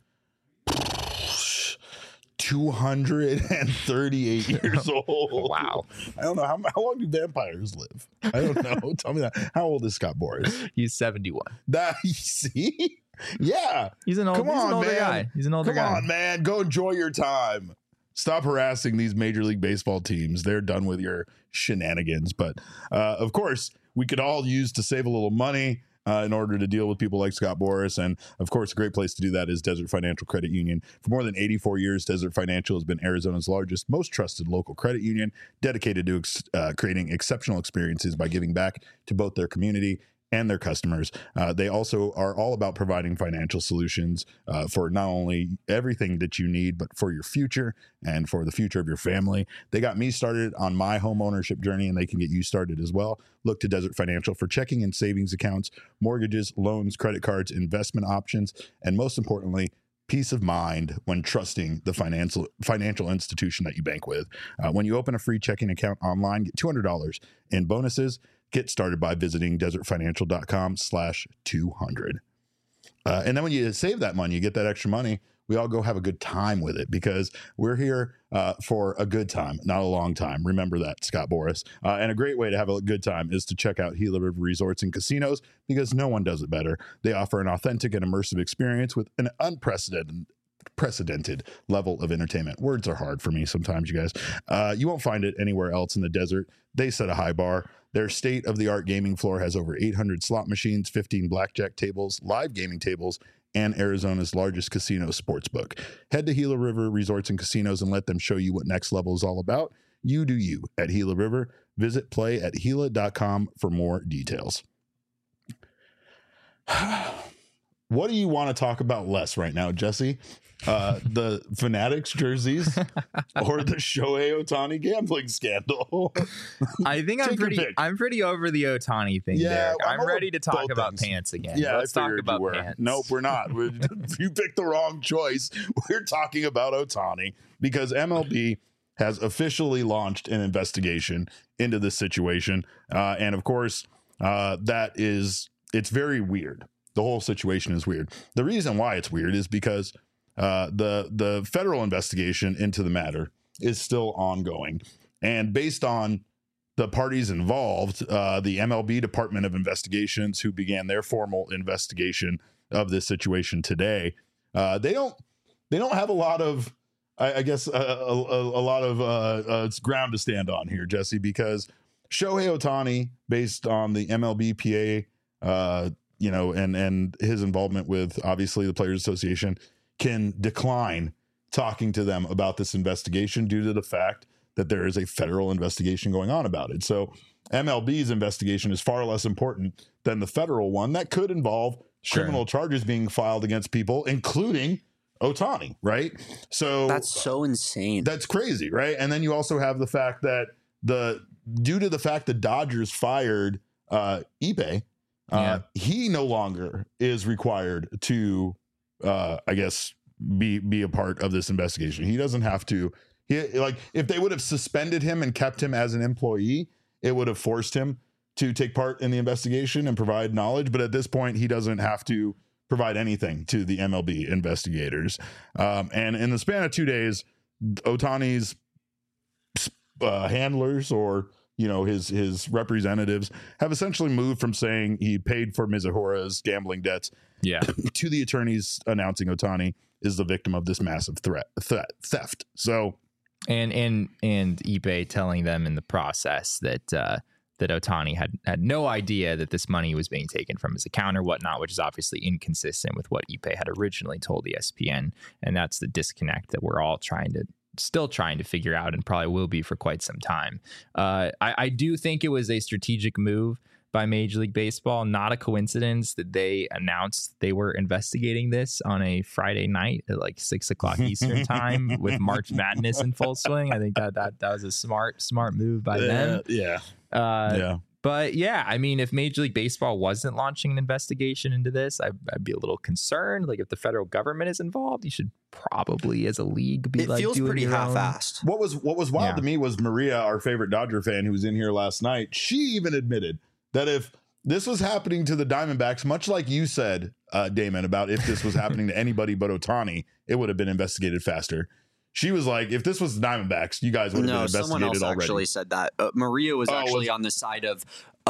238 years old. Wow. I don't know. How long do vampires live? I don't know. Tell me that. How old is Scott Boras? He's 71. You see? Yeah. He's an older guy. He's an older guy. Come on, man. Go enjoy your time. Stop harassing these Major League Baseball teams. They're done with your shenanigans. But, of course, we could all use to save a little money in order to deal with people like Scott Boras. And, of course, a great place to do that is Desert Financial Credit Union. For more than 84 years, Desert Financial has been Arizona's largest, most trusted local credit union, dedicated to creating exceptional experiences by giving back to both their community and their customers. They also are all about providing financial solutions for not only everything that you need, but for your future and for the future of your family. They got me started on my home ownership journey, and they can get you started as well. Look to Desert Financial for checking and savings accounts, mortgages, loans, credit cards, investment options, and most importantly, peace of mind when trusting the financial institution that you bank with. When you open a free checking account online, get $200 in bonuses. Get started by visiting desertfinancial.com/200. And then when you save that money, you get that extra money, we all go have a good time with it because we're here for a good time, not a long time. Remember that, Scott Boras. And a great way to have a good time is to check out Gila River Resorts and Casinos because no one does it better. They offer an authentic and immersive experience with an unprecedented level of entertainment. Words are hard for me sometimes, you guys. You won't find it anywhere else in the desert. They set a high bar. Their state-of-the-art gaming floor has over 800 slot machines, 15 blackjack tables, live gaming tables, and Arizona's largest casino sportsbook. Head to Gila River Resorts and Casinos and let them show you what next level is all about. You do you at Gila River. Visit play@gila.com for more details. What do you want to talk about less right now, Jesse? The Fanatics jerseys or the Shohei Ohtani gambling scandal? I think I'm pretty over the Ohtani thing. Yeah, Derek. I'm ready to talk about things. pants again. Yeah, let's talk about pants. Nope, we're not. You picked the wrong choice. We're talking about Ohtani because MLB has officially launched an investigation into this situation, and of course, it's very weird. The whole situation is weird. The reason why it's weird is because the federal investigation into the matter is still ongoing. And based on the parties involved, the MLB Department of Investigations, who began their formal investigation of this situation today, they don't have a lot of, I guess, a lot of ground to stand on here, Jesse, because Shohei Ohtani, based on the MLBPA, and his involvement with obviously the Players Association, can decline talking to them about this investigation due to the fact that there is a federal investigation going on about it. So MLB's investigation is far less important than the federal one that could involve criminal charges being filed against people, including Ohtani, right? So that's so insane. That's crazy, right? And then you also have the fact that due to the fact the Dodgers fired Ippei, he no longer is required to, I guess, be a part of this investigation. He doesn't have to. If they would have suspended him and kept him as an employee, it would have forced him to take part in the investigation and provide knowledge. But at this point, he doesn't have to provide anything to the MLB investigators. And in the span of 2 days, Ohtani's handlers, or his representatives, have essentially moved from saying he paid for Mizuhora's gambling debts to the attorneys announcing Ohtani is the victim of this massive theft. So and Ippei telling them in the process that Ohtani had no idea that this money was being taken from his account or whatnot, which is obviously inconsistent with what Ippei had originally told ESPN. And that's the disconnect that we're all still trying to figure out, and probably will be for quite some time. I do think it was a strategic move by Major League Baseball. Not a coincidence that they announced they were investigating this on a Friday night at like 6 o'clock Eastern time with March Madness in full swing. I think that was a smart move by them. But yeah, I mean, if Major League Baseball wasn't launching an investigation into this, I'd be a little concerned. Like, if the federal government is involved, you should probably, as a league, be feels doing pretty your half-assed. What was wild to me was Maria, our favorite Dodger fan, who was in here last night. She even admitted that if this was happening to the Diamondbacks, much like you said, Damon, about if this was happening to anybody but Ohtani, it would have been investigated faster. She was like, if this was the Diamondbacks, you guys would have been investigated someone else already. Actually said that. Maria was on the side of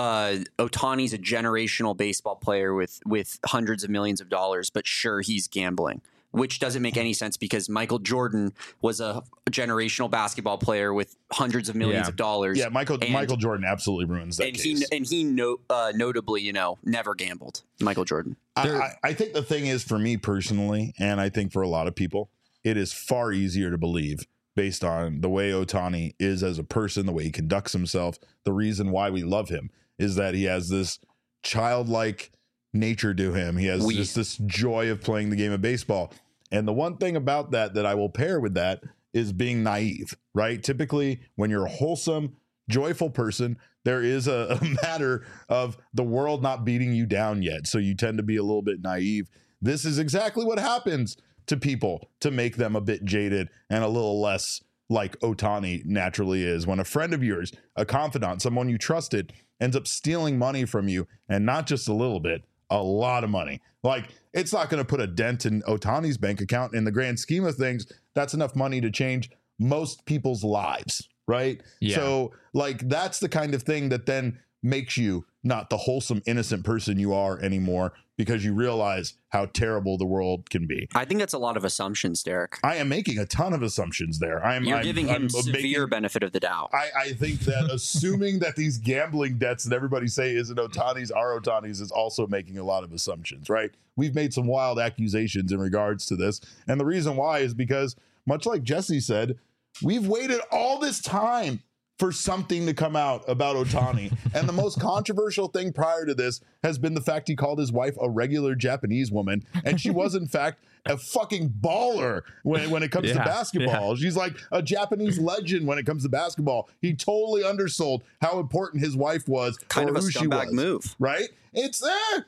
Ohtani's a generational baseball player with hundreds of millions of dollars, but sure, he's gambling, which doesn't make any sense because Michael Jordan was a generational basketball player with hundreds of millions of dollars. Yeah, Michael Jordan absolutely ruins that case. He notably, never gambled. Michael Jordan. I think the thing is, for me personally, and I think for a lot of people, it is far easier to believe based on the way Ohtani is as a person, the way he conducts himself. The reason why we love him is that he has this childlike nature to him. He has just this joy of playing the game of baseball. And the one thing about that I will pair with that is being naive, right? Typically, when you're a wholesome, joyful person, there is a matter of the world not beating you down yet. So you tend to be a little bit naive. This is exactly what happens to people to make them a bit jaded and a little less like Ohtani naturally is. When a friend of yours, a confidant, someone you trusted, ends up stealing money from you, and not just a little bit, a lot of money. Like, it's not going to put a dent in Ohtani's bank account. In the grand scheme of things, that's enough money to change most people's lives, right? Yeah. So, like, that's the kind of thing that then makes you not the wholesome, innocent person you are anymore, because you realize how terrible the world can be. I think that's a lot of assumptions, Derek. I am making a ton of assumptions there. You're giving him severe benefit of the doubt. I think that assuming that these gambling debts that everybody say isn't Ohtani's are Ohtani's is also making a lot of assumptions, right? We've made some wild accusations in regards to this. And the reason why is because, much like Jesse said, we've waited all this time for something to come out about Ohtani. And the most controversial thing prior to this has been the fact he called his wife a regular Japanese woman. And she was, in fact, a fucking baller when it comes to basketball. She's like a Japanese legend when it comes to basketball. He totally undersold how important his wife was. Kind of a who scumbag she was, move. Right? That's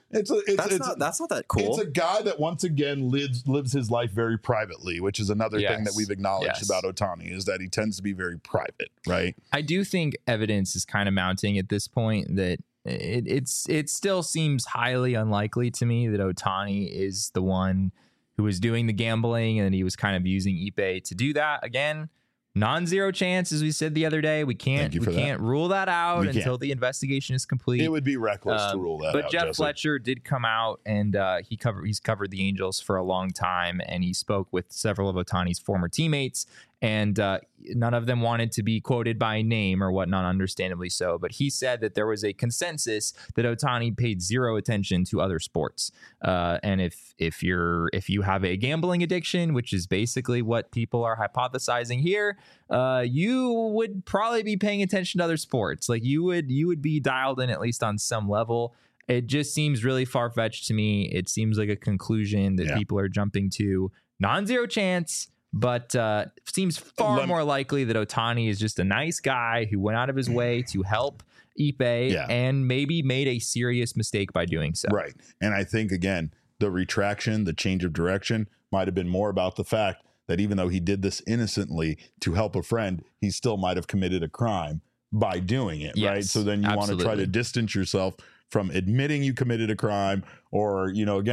not that cool. It's a guy that once again lives his life very privately, which is another thing that we've acknowledged about Ohtani, is that he tends to be very private, right? I do think evidence is kind of mounting at this point that it still seems highly unlikely to me that Ohtani is the one who was doing the gambling, and he was kind of using Ippei to do that. Again, non-zero chance, as we said the other day. We can't rule that out until the investigation is complete. It would be reckless to rule that out. But Jeff Jesse Fletcher did come out, and he's covered the Angels for a long time, and he spoke with several of Ohtani's former teammates, and none of them wanted to be quoted by name or whatnot, understandably so. But he said that there was a consensus that Ohtani paid zero attention to other sports. And if you have a gambling addiction, which is basically what people are hypothesizing here, you would probably be paying attention to other sports. Like you would be dialed in at least on some level. It just seems really far-fetched to me. It seems like a conclusion that people are jumping to. Non-zero chance. But seems far more likely that Ohtani is just a nice guy who went out of his way to help Ippei and maybe made a serious mistake by doing so. Right. And I think, again, the retraction, the change of direction might have been more about the fact that even though he did this innocently to help a friend, he still might have committed a crime by doing it. Right. So then you want to try to distance yourself from admitting you committed a crime, or, again,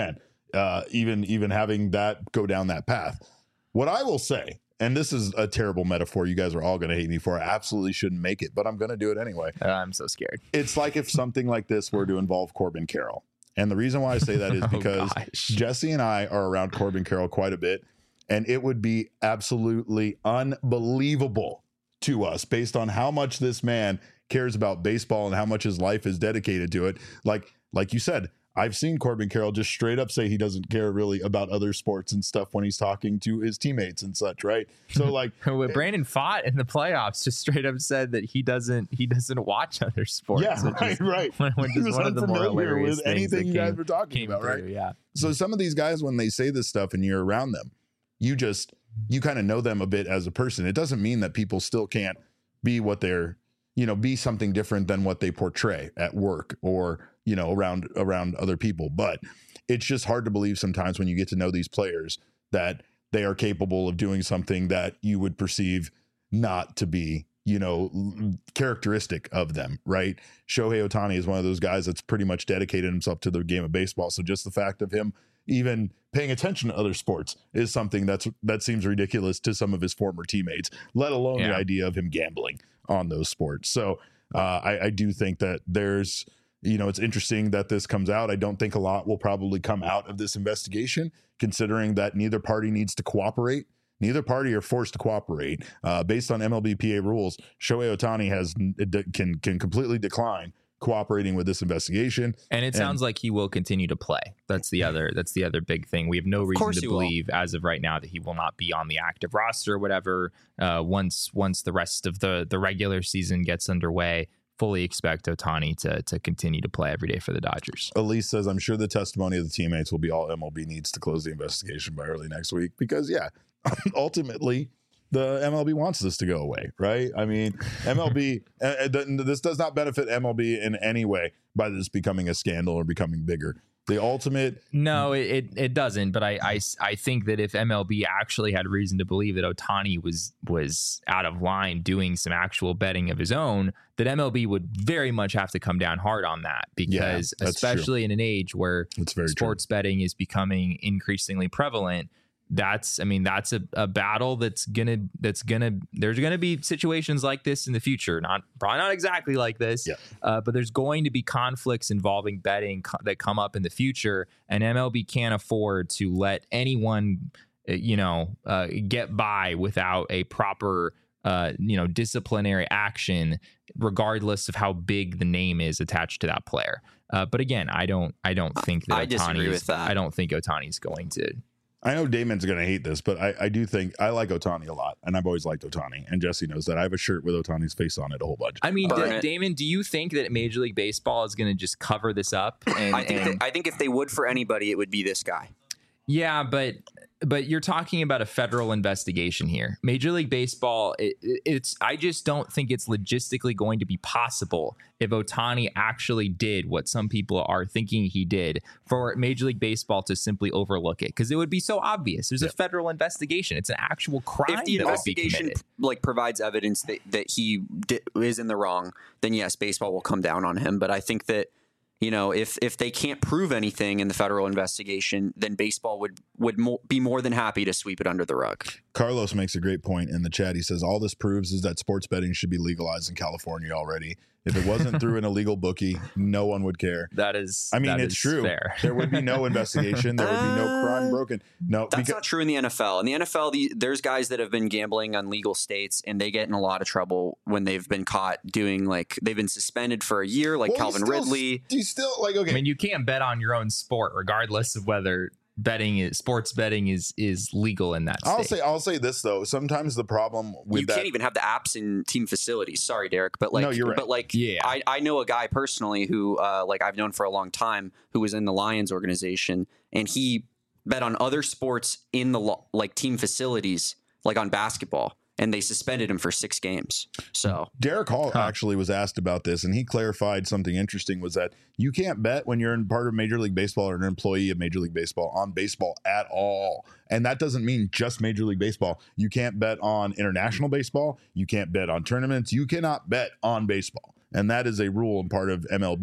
even having that go down that path. What I will say, and this is a terrible metaphor, you guys are all going to hate me for, I absolutely shouldn't make it, but I'm going to do it anyway. I'm so scared. It's like if something like this were to involve Corbin Carroll. And the reason why I say that is because Jesse and I are around Corbin Carroll quite a bit, and it would be absolutely unbelievable to us based on how much this man cares about baseball and how much his life is dedicated to it. Like you said, I've seen Corbin Carroll just straight up say he doesn't care really about other sports and stuff when he's talking to his teammates and such, right? So like Brandon Pfaadt in the playoffs just straight up said that he doesn't watch other sports. Yeah, right. Which is one of the more hilarious with anything you guys were talking about, through, right? Yeah. So some of these guys, when they say this stuff and you're around them, you kind of know them a bit as a person. It doesn't mean that people still can't be what they're, be something different than what they portray at work or, around other people. But it's just hard to believe sometimes when you get to know these players that they are capable of doing something that you would perceive not to be, characteristic of them, right? Shohei Ohtani is one of those guys that's pretty much dedicated himself to the game of baseball. So just the fact of him even paying attention to other sports is something that seems ridiculous to some of his former teammates, let alone the idea of him gambling on those sports. So I do think that there's, it's interesting that this comes out. I don't think a lot will probably come out of this investigation, considering that neither party needs to cooperate. Neither party are forced to cooperate. Based on MLBPA rules, Shohei Ohtani can completely decline cooperating with this investigation. And it sounds like he will continue to play. That's the other big thing. We have no reason to believe as of right now that he will not be on the active roster or whatever. Once the rest of the regular season gets underway, fully expect Ohtani to continue to play every day for the Dodgers. Elise says, I'm sure the testimony of the teammates will be all MLB needs to close the investigation by early next week because, ultimately, the MLB wants this to go away, right? I mean, MLB, this does not benefit MLB in any way by this becoming a scandal or becoming bigger. The ultimate... No, it doesn't. But I think that if MLB actually had reason to believe that Ohtani was out of line doing some actual betting of his own, that MLB would very much have to come down hard on that because especially in an age where sports betting is becoming increasingly prevalent, that's a battle there's gonna be situations like this in the future, probably not exactly like this, but there's going to be conflicts involving betting that come up in the future, and MLB can't afford to let anyone get by without a proper disciplinary action, regardless of how big the name is attached to that player. But again, I don't think that I disagree with that. I don't think Ohtani's going to. I know Damon's going to hate this, but I do think I like Ohtani a lot, and I've always liked Ohtani, and Jesse knows that. I have a shirt with Ohtani's face on it a whole bunch. I mean, Damon, do you think that Major League Baseball is going to just cover this up? I think if they would for anybody, it would be this guy. Yeah, but you're talking about a federal investigation here. Major League Baseball, I just don't think it's logistically going to be possible if Ohtani actually did what some people are thinking he did for Major League Baseball to simply overlook it, because it would be so obvious. There's a federal investigation. It's an actual crime. If the investigation provides evidence that he is in the wrong, then yes, baseball will come down on him. But I think that if they can't prove anything in the federal investigation, then baseball would be more than happy to sweep it under the rug. Carlos makes a great point in the chat. He says, all this proves is that sports betting should be legalized in California already. If it wasn't through an illegal bookie, no one would care. It's true. Fair. There would be no investigation. There would be no crime broken. No, that's not true in the NFL. In the NFL, there's guys that have been gambling on legal states, and they get in a lot of trouble when they've been caught doing, they've been suspended for a year, Calvin Ridley. Do you still okay? I mean, you can't bet on your own sport, regardless of whether sports betting is legal in that state. I'll say this though. Sometimes the problem with you can't even have the apps in team facilities. Sorry, Derek, but no, you're right. But I know a guy personally who I've known for a long time who was in the Lions organization, and he bet on other sports in the team facilities, on basketball. And they suspended him for 6 games. So Derek Hall actually was asked about this, and he clarified something interesting, was that you can't bet when you're in part of Major League Baseball or an employee of Major League Baseball on baseball at all. And that doesn't mean just Major League Baseball. You can't bet on international baseball. You can't bet on tournaments. You cannot bet on baseball. And that is a rule and part of MLB,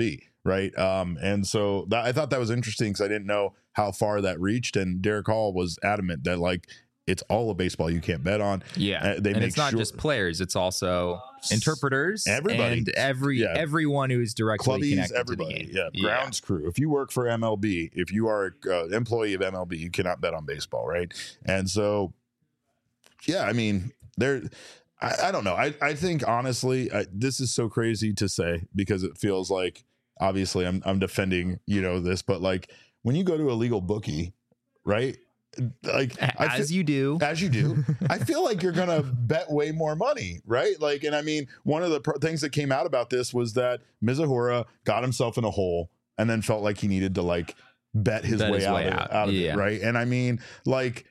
right? And so I thought that was interesting because I didn't know how far that reached. And Derek Hall was adamant that like it's all of baseball you can't bet on. Yeah, and it's not just players; it's also interpreters, everybody, and everyone who is directly Clubbies, connected everybody, to the game. Grounds crew. If you work for MLB, if you are an employee of MLB, you cannot bet on baseball, right? And so, yeah, I mean, I don't know. I think honestly, this is so crazy to say because it feels like obviously I'm defending this, but like when you go to a legal bookie, right? Like as you do, I feel like you're gonna bet way more money, right? Like, and I mean, one of the things that came out about this was that Mizuhara got himself in a hole and then felt like he needed to like bet his way out of it, right? And I mean, like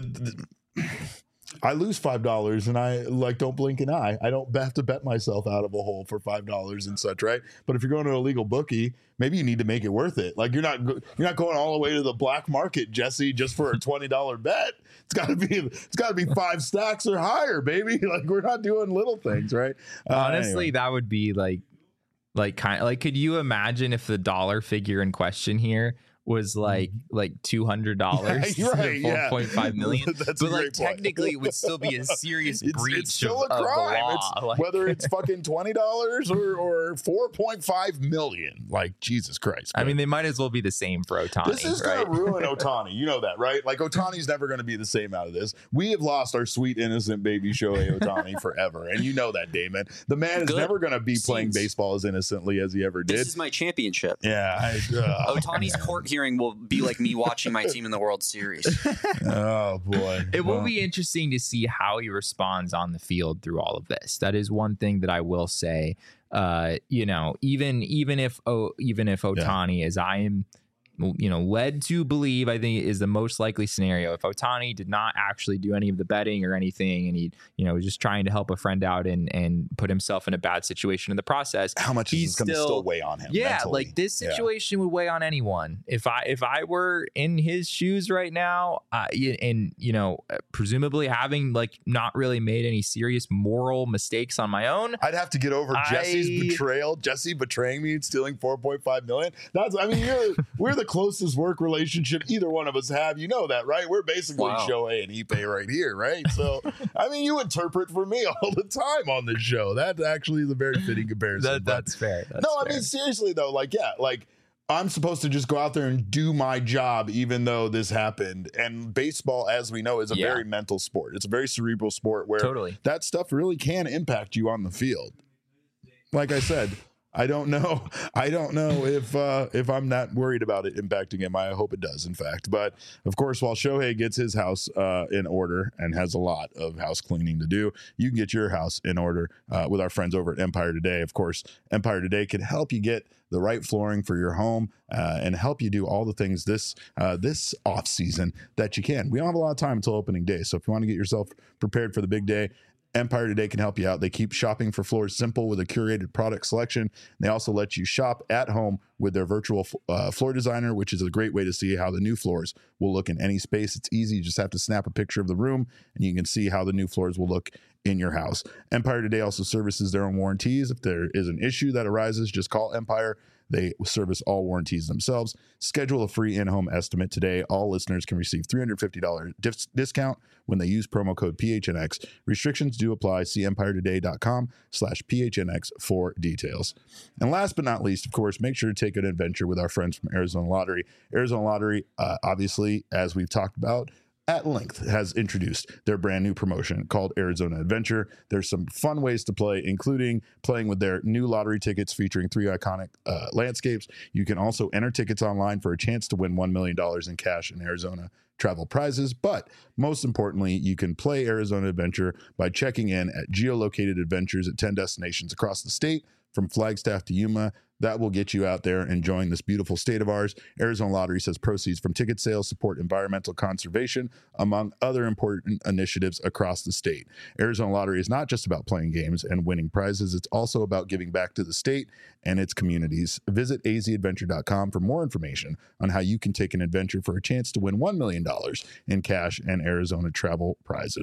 I lose $5 and I like don't blink an eye. I don't have to bet myself out of a hole for $5 and such, right? But if you're going to a legal bookie, maybe you need to make it worth it. Like you're not going all the way to the black market, Jesse, just for a $20 bet. It's got to be 5 stacks or higher, baby. Like we're not doing little things, right? Honestly, anyway. that would be could you imagine if the dollar figure in question here was like $200 right, to 4.5 million. That's but like technically it would still be a serious breach it's still of a crime. the law. Whether it's fucking $20 or 4.5 million. Like Jesus Christ. I mean, they might as well be the same for Ohtani. This is right? gonna ruin Ohtani. You know that, right? Like Ohtani's never gonna be the same out of this. We have lost our sweet innocent baby Shohei Ohtani forever. And you know that, Damon. The man is never gonna be playing baseball as innocently as he ever did. This is my championship. Yeah. Ohtani's court hearing will be like me watching my team in the World Series. Oh boy. It will be interesting to see how he responds on the field through all of this. That is one thing that I will say. Even if Ohtani, as I am led to believe, I think is the most likely scenario. If Ohtani did not actually do any of the betting or anything, and he, was just trying to help a friend out and put himself in a bad situation in the process, how much is this going to still weigh on him? Yeah, mentally? like this situation would weigh on anyone. If I were in his shoes right now, presumably having like not really made any serious moral mistakes on my own, I'd have to get over Jesse's betrayal. Jesse betraying me and stealing 4.5 million. We're the closest work relationship either one of us have. You know that, right? We're basically Shohei and Ippei right here, right? So, I mean, you interpret for me all the time on this show. That actually is a very fitting comparison. That's fair. I mean, seriously, though, I'm supposed to just go out there and do my job, even though this happened. And baseball, as we know, is a very mental sport. It's a very cerebral sport where that stuff really can impact you on the field. Like I said, I don't know if I'm not worried about it impacting him. I hope it does, in fact. But of course, while Shohei gets his house in order and has a lot of house cleaning to do, you can get your house in order with our friends over at Empire Today. Of course, Empire Today can help you get the right flooring for your home and help you do all the things this off season that you can. We don't have a lot of time until opening day, so if you want to get yourself prepared for the big day, Empire Today can help you out. They keep shopping for floors simple with a curated product selection. They also let you shop at home with their virtual floor designer, which is a great way to see how the new floors will look in any space. It's easy. You just have to snap a picture of the room and you can see how the new floors will look in your house. Empire Today also services their own warranties. If there is an issue that arises, just call Empire. They service all warranties themselves. Schedule a free in-home estimate today. All listeners can receive $350 discount when they use promo code PHNX. Restrictions do apply. See EmpireToday.com/PHNX for details. And last but not least, of course, make sure to take an adventure with our friends from Arizona Lottery. Arizona Lottery, obviously, as we've talked about at length, has introduced their brand new promotion called Arizona Adventure. There's some fun ways to play, including playing with their new lottery tickets featuring 3 iconic landscapes. You can also enter tickets online for a chance to win $1 million in cash in Arizona travel prizes. But most importantly, you can play Arizona Adventure by checking in at geolocated adventures at 10 destinations across the state, from Flagstaff to Yuma. That will get you out there enjoying this beautiful state of ours. Arizona Lottery says proceeds from ticket sales support environmental conservation, among other important initiatives across the state. Arizona Lottery is not just about playing games and winning prizes. It's also about giving back to the state and its communities. Visit azadventure.com for more information on how you can take an adventure for a chance to win $1 million in cash and Arizona travel prizes.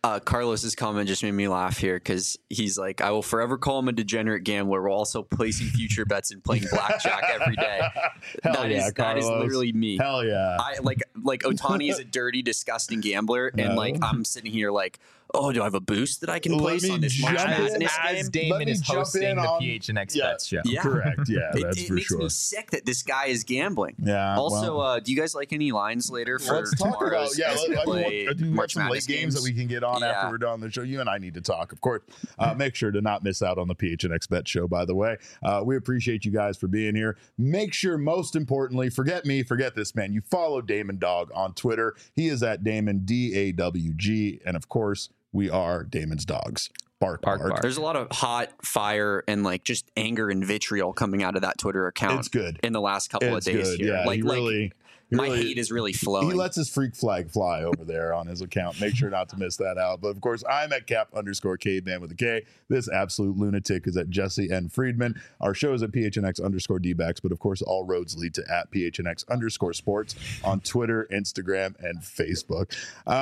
Carlos's comment just made me laugh here because he's like, I will forever call him a degenerate gambler while also placing future bets and playing blackjack every day. That is literally me. Hell yeah. I like Ohtani is a dirty, disgusting gambler, and like I'm sitting here like, oh, do I have a boost that I can place on this March Madness as game? Damon is hosting the PHNX Bets show. Yeah. Correct. Yeah, that's it for makes sure. me sick that this guy is gambling. Yeah. Also, do you guys like any lines later for let's talk about tomorrow's as we play we have March some late Madness games that we can get on after we're done on the show. You and I need to talk, of course. Make sure to not miss out on the PHNX Bet show, by the way. We appreciate you guys for being here. Make sure, most importantly, forget me, forget this man. You follow Damon Dog on Twitter. He is at Damon DAWG, and of course, we are Damon's Dogs. Bark, bark. There's a lot of hot fire and like just anger and vitriol coming out of that Twitter account. It's good in the last couple of days good. here. Yeah, like my hate is really flowing. He lets his freak flag fly over there on his account. Make sure not to miss that out. But of course, I'm at Cap_Caveman with a K. This absolute lunatic is at Jesse N. Friedman. Our show is at PHNX_DBacks. But of course, all roads lead to at PHNX_sports on Twitter, Instagram, and Facebook.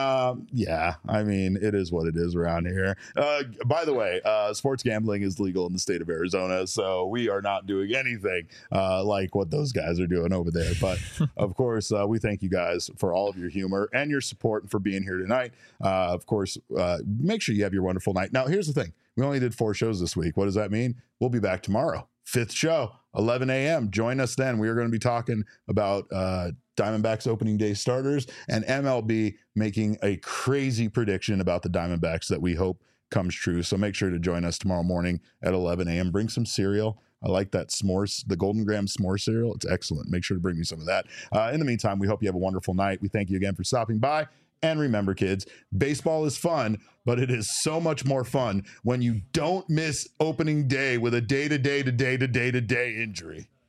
Yeah, I mean, it is what it is around here. By the way, sports gambling is legal in the state of Arizona. So we are not doing anything like what those guys are doing over there. But of course, we thank you guys for all of your humor and your support and for being here tonight. Of course, make sure you have your wonderful night. Now, here's the thing. We only did 4 shows this week. What does that mean? We'll be back tomorrow. 5th show, 11 a.m. Join us then. We are going to be talking about Diamondbacks opening day starters and MLB making a crazy prediction about the Diamondbacks that we hope comes true. So make sure to join us tomorrow morning at 11 a.m. Bring some cereal. I like that s'mores, the Golden Graham s'more cereal. It's excellent. Make sure to bring me some of that. In the meantime, we hope you have a wonderful night. We thank you again for stopping by. And remember, kids, baseball is fun, but it is so much more fun when you don't miss opening day with a day-to-day injury.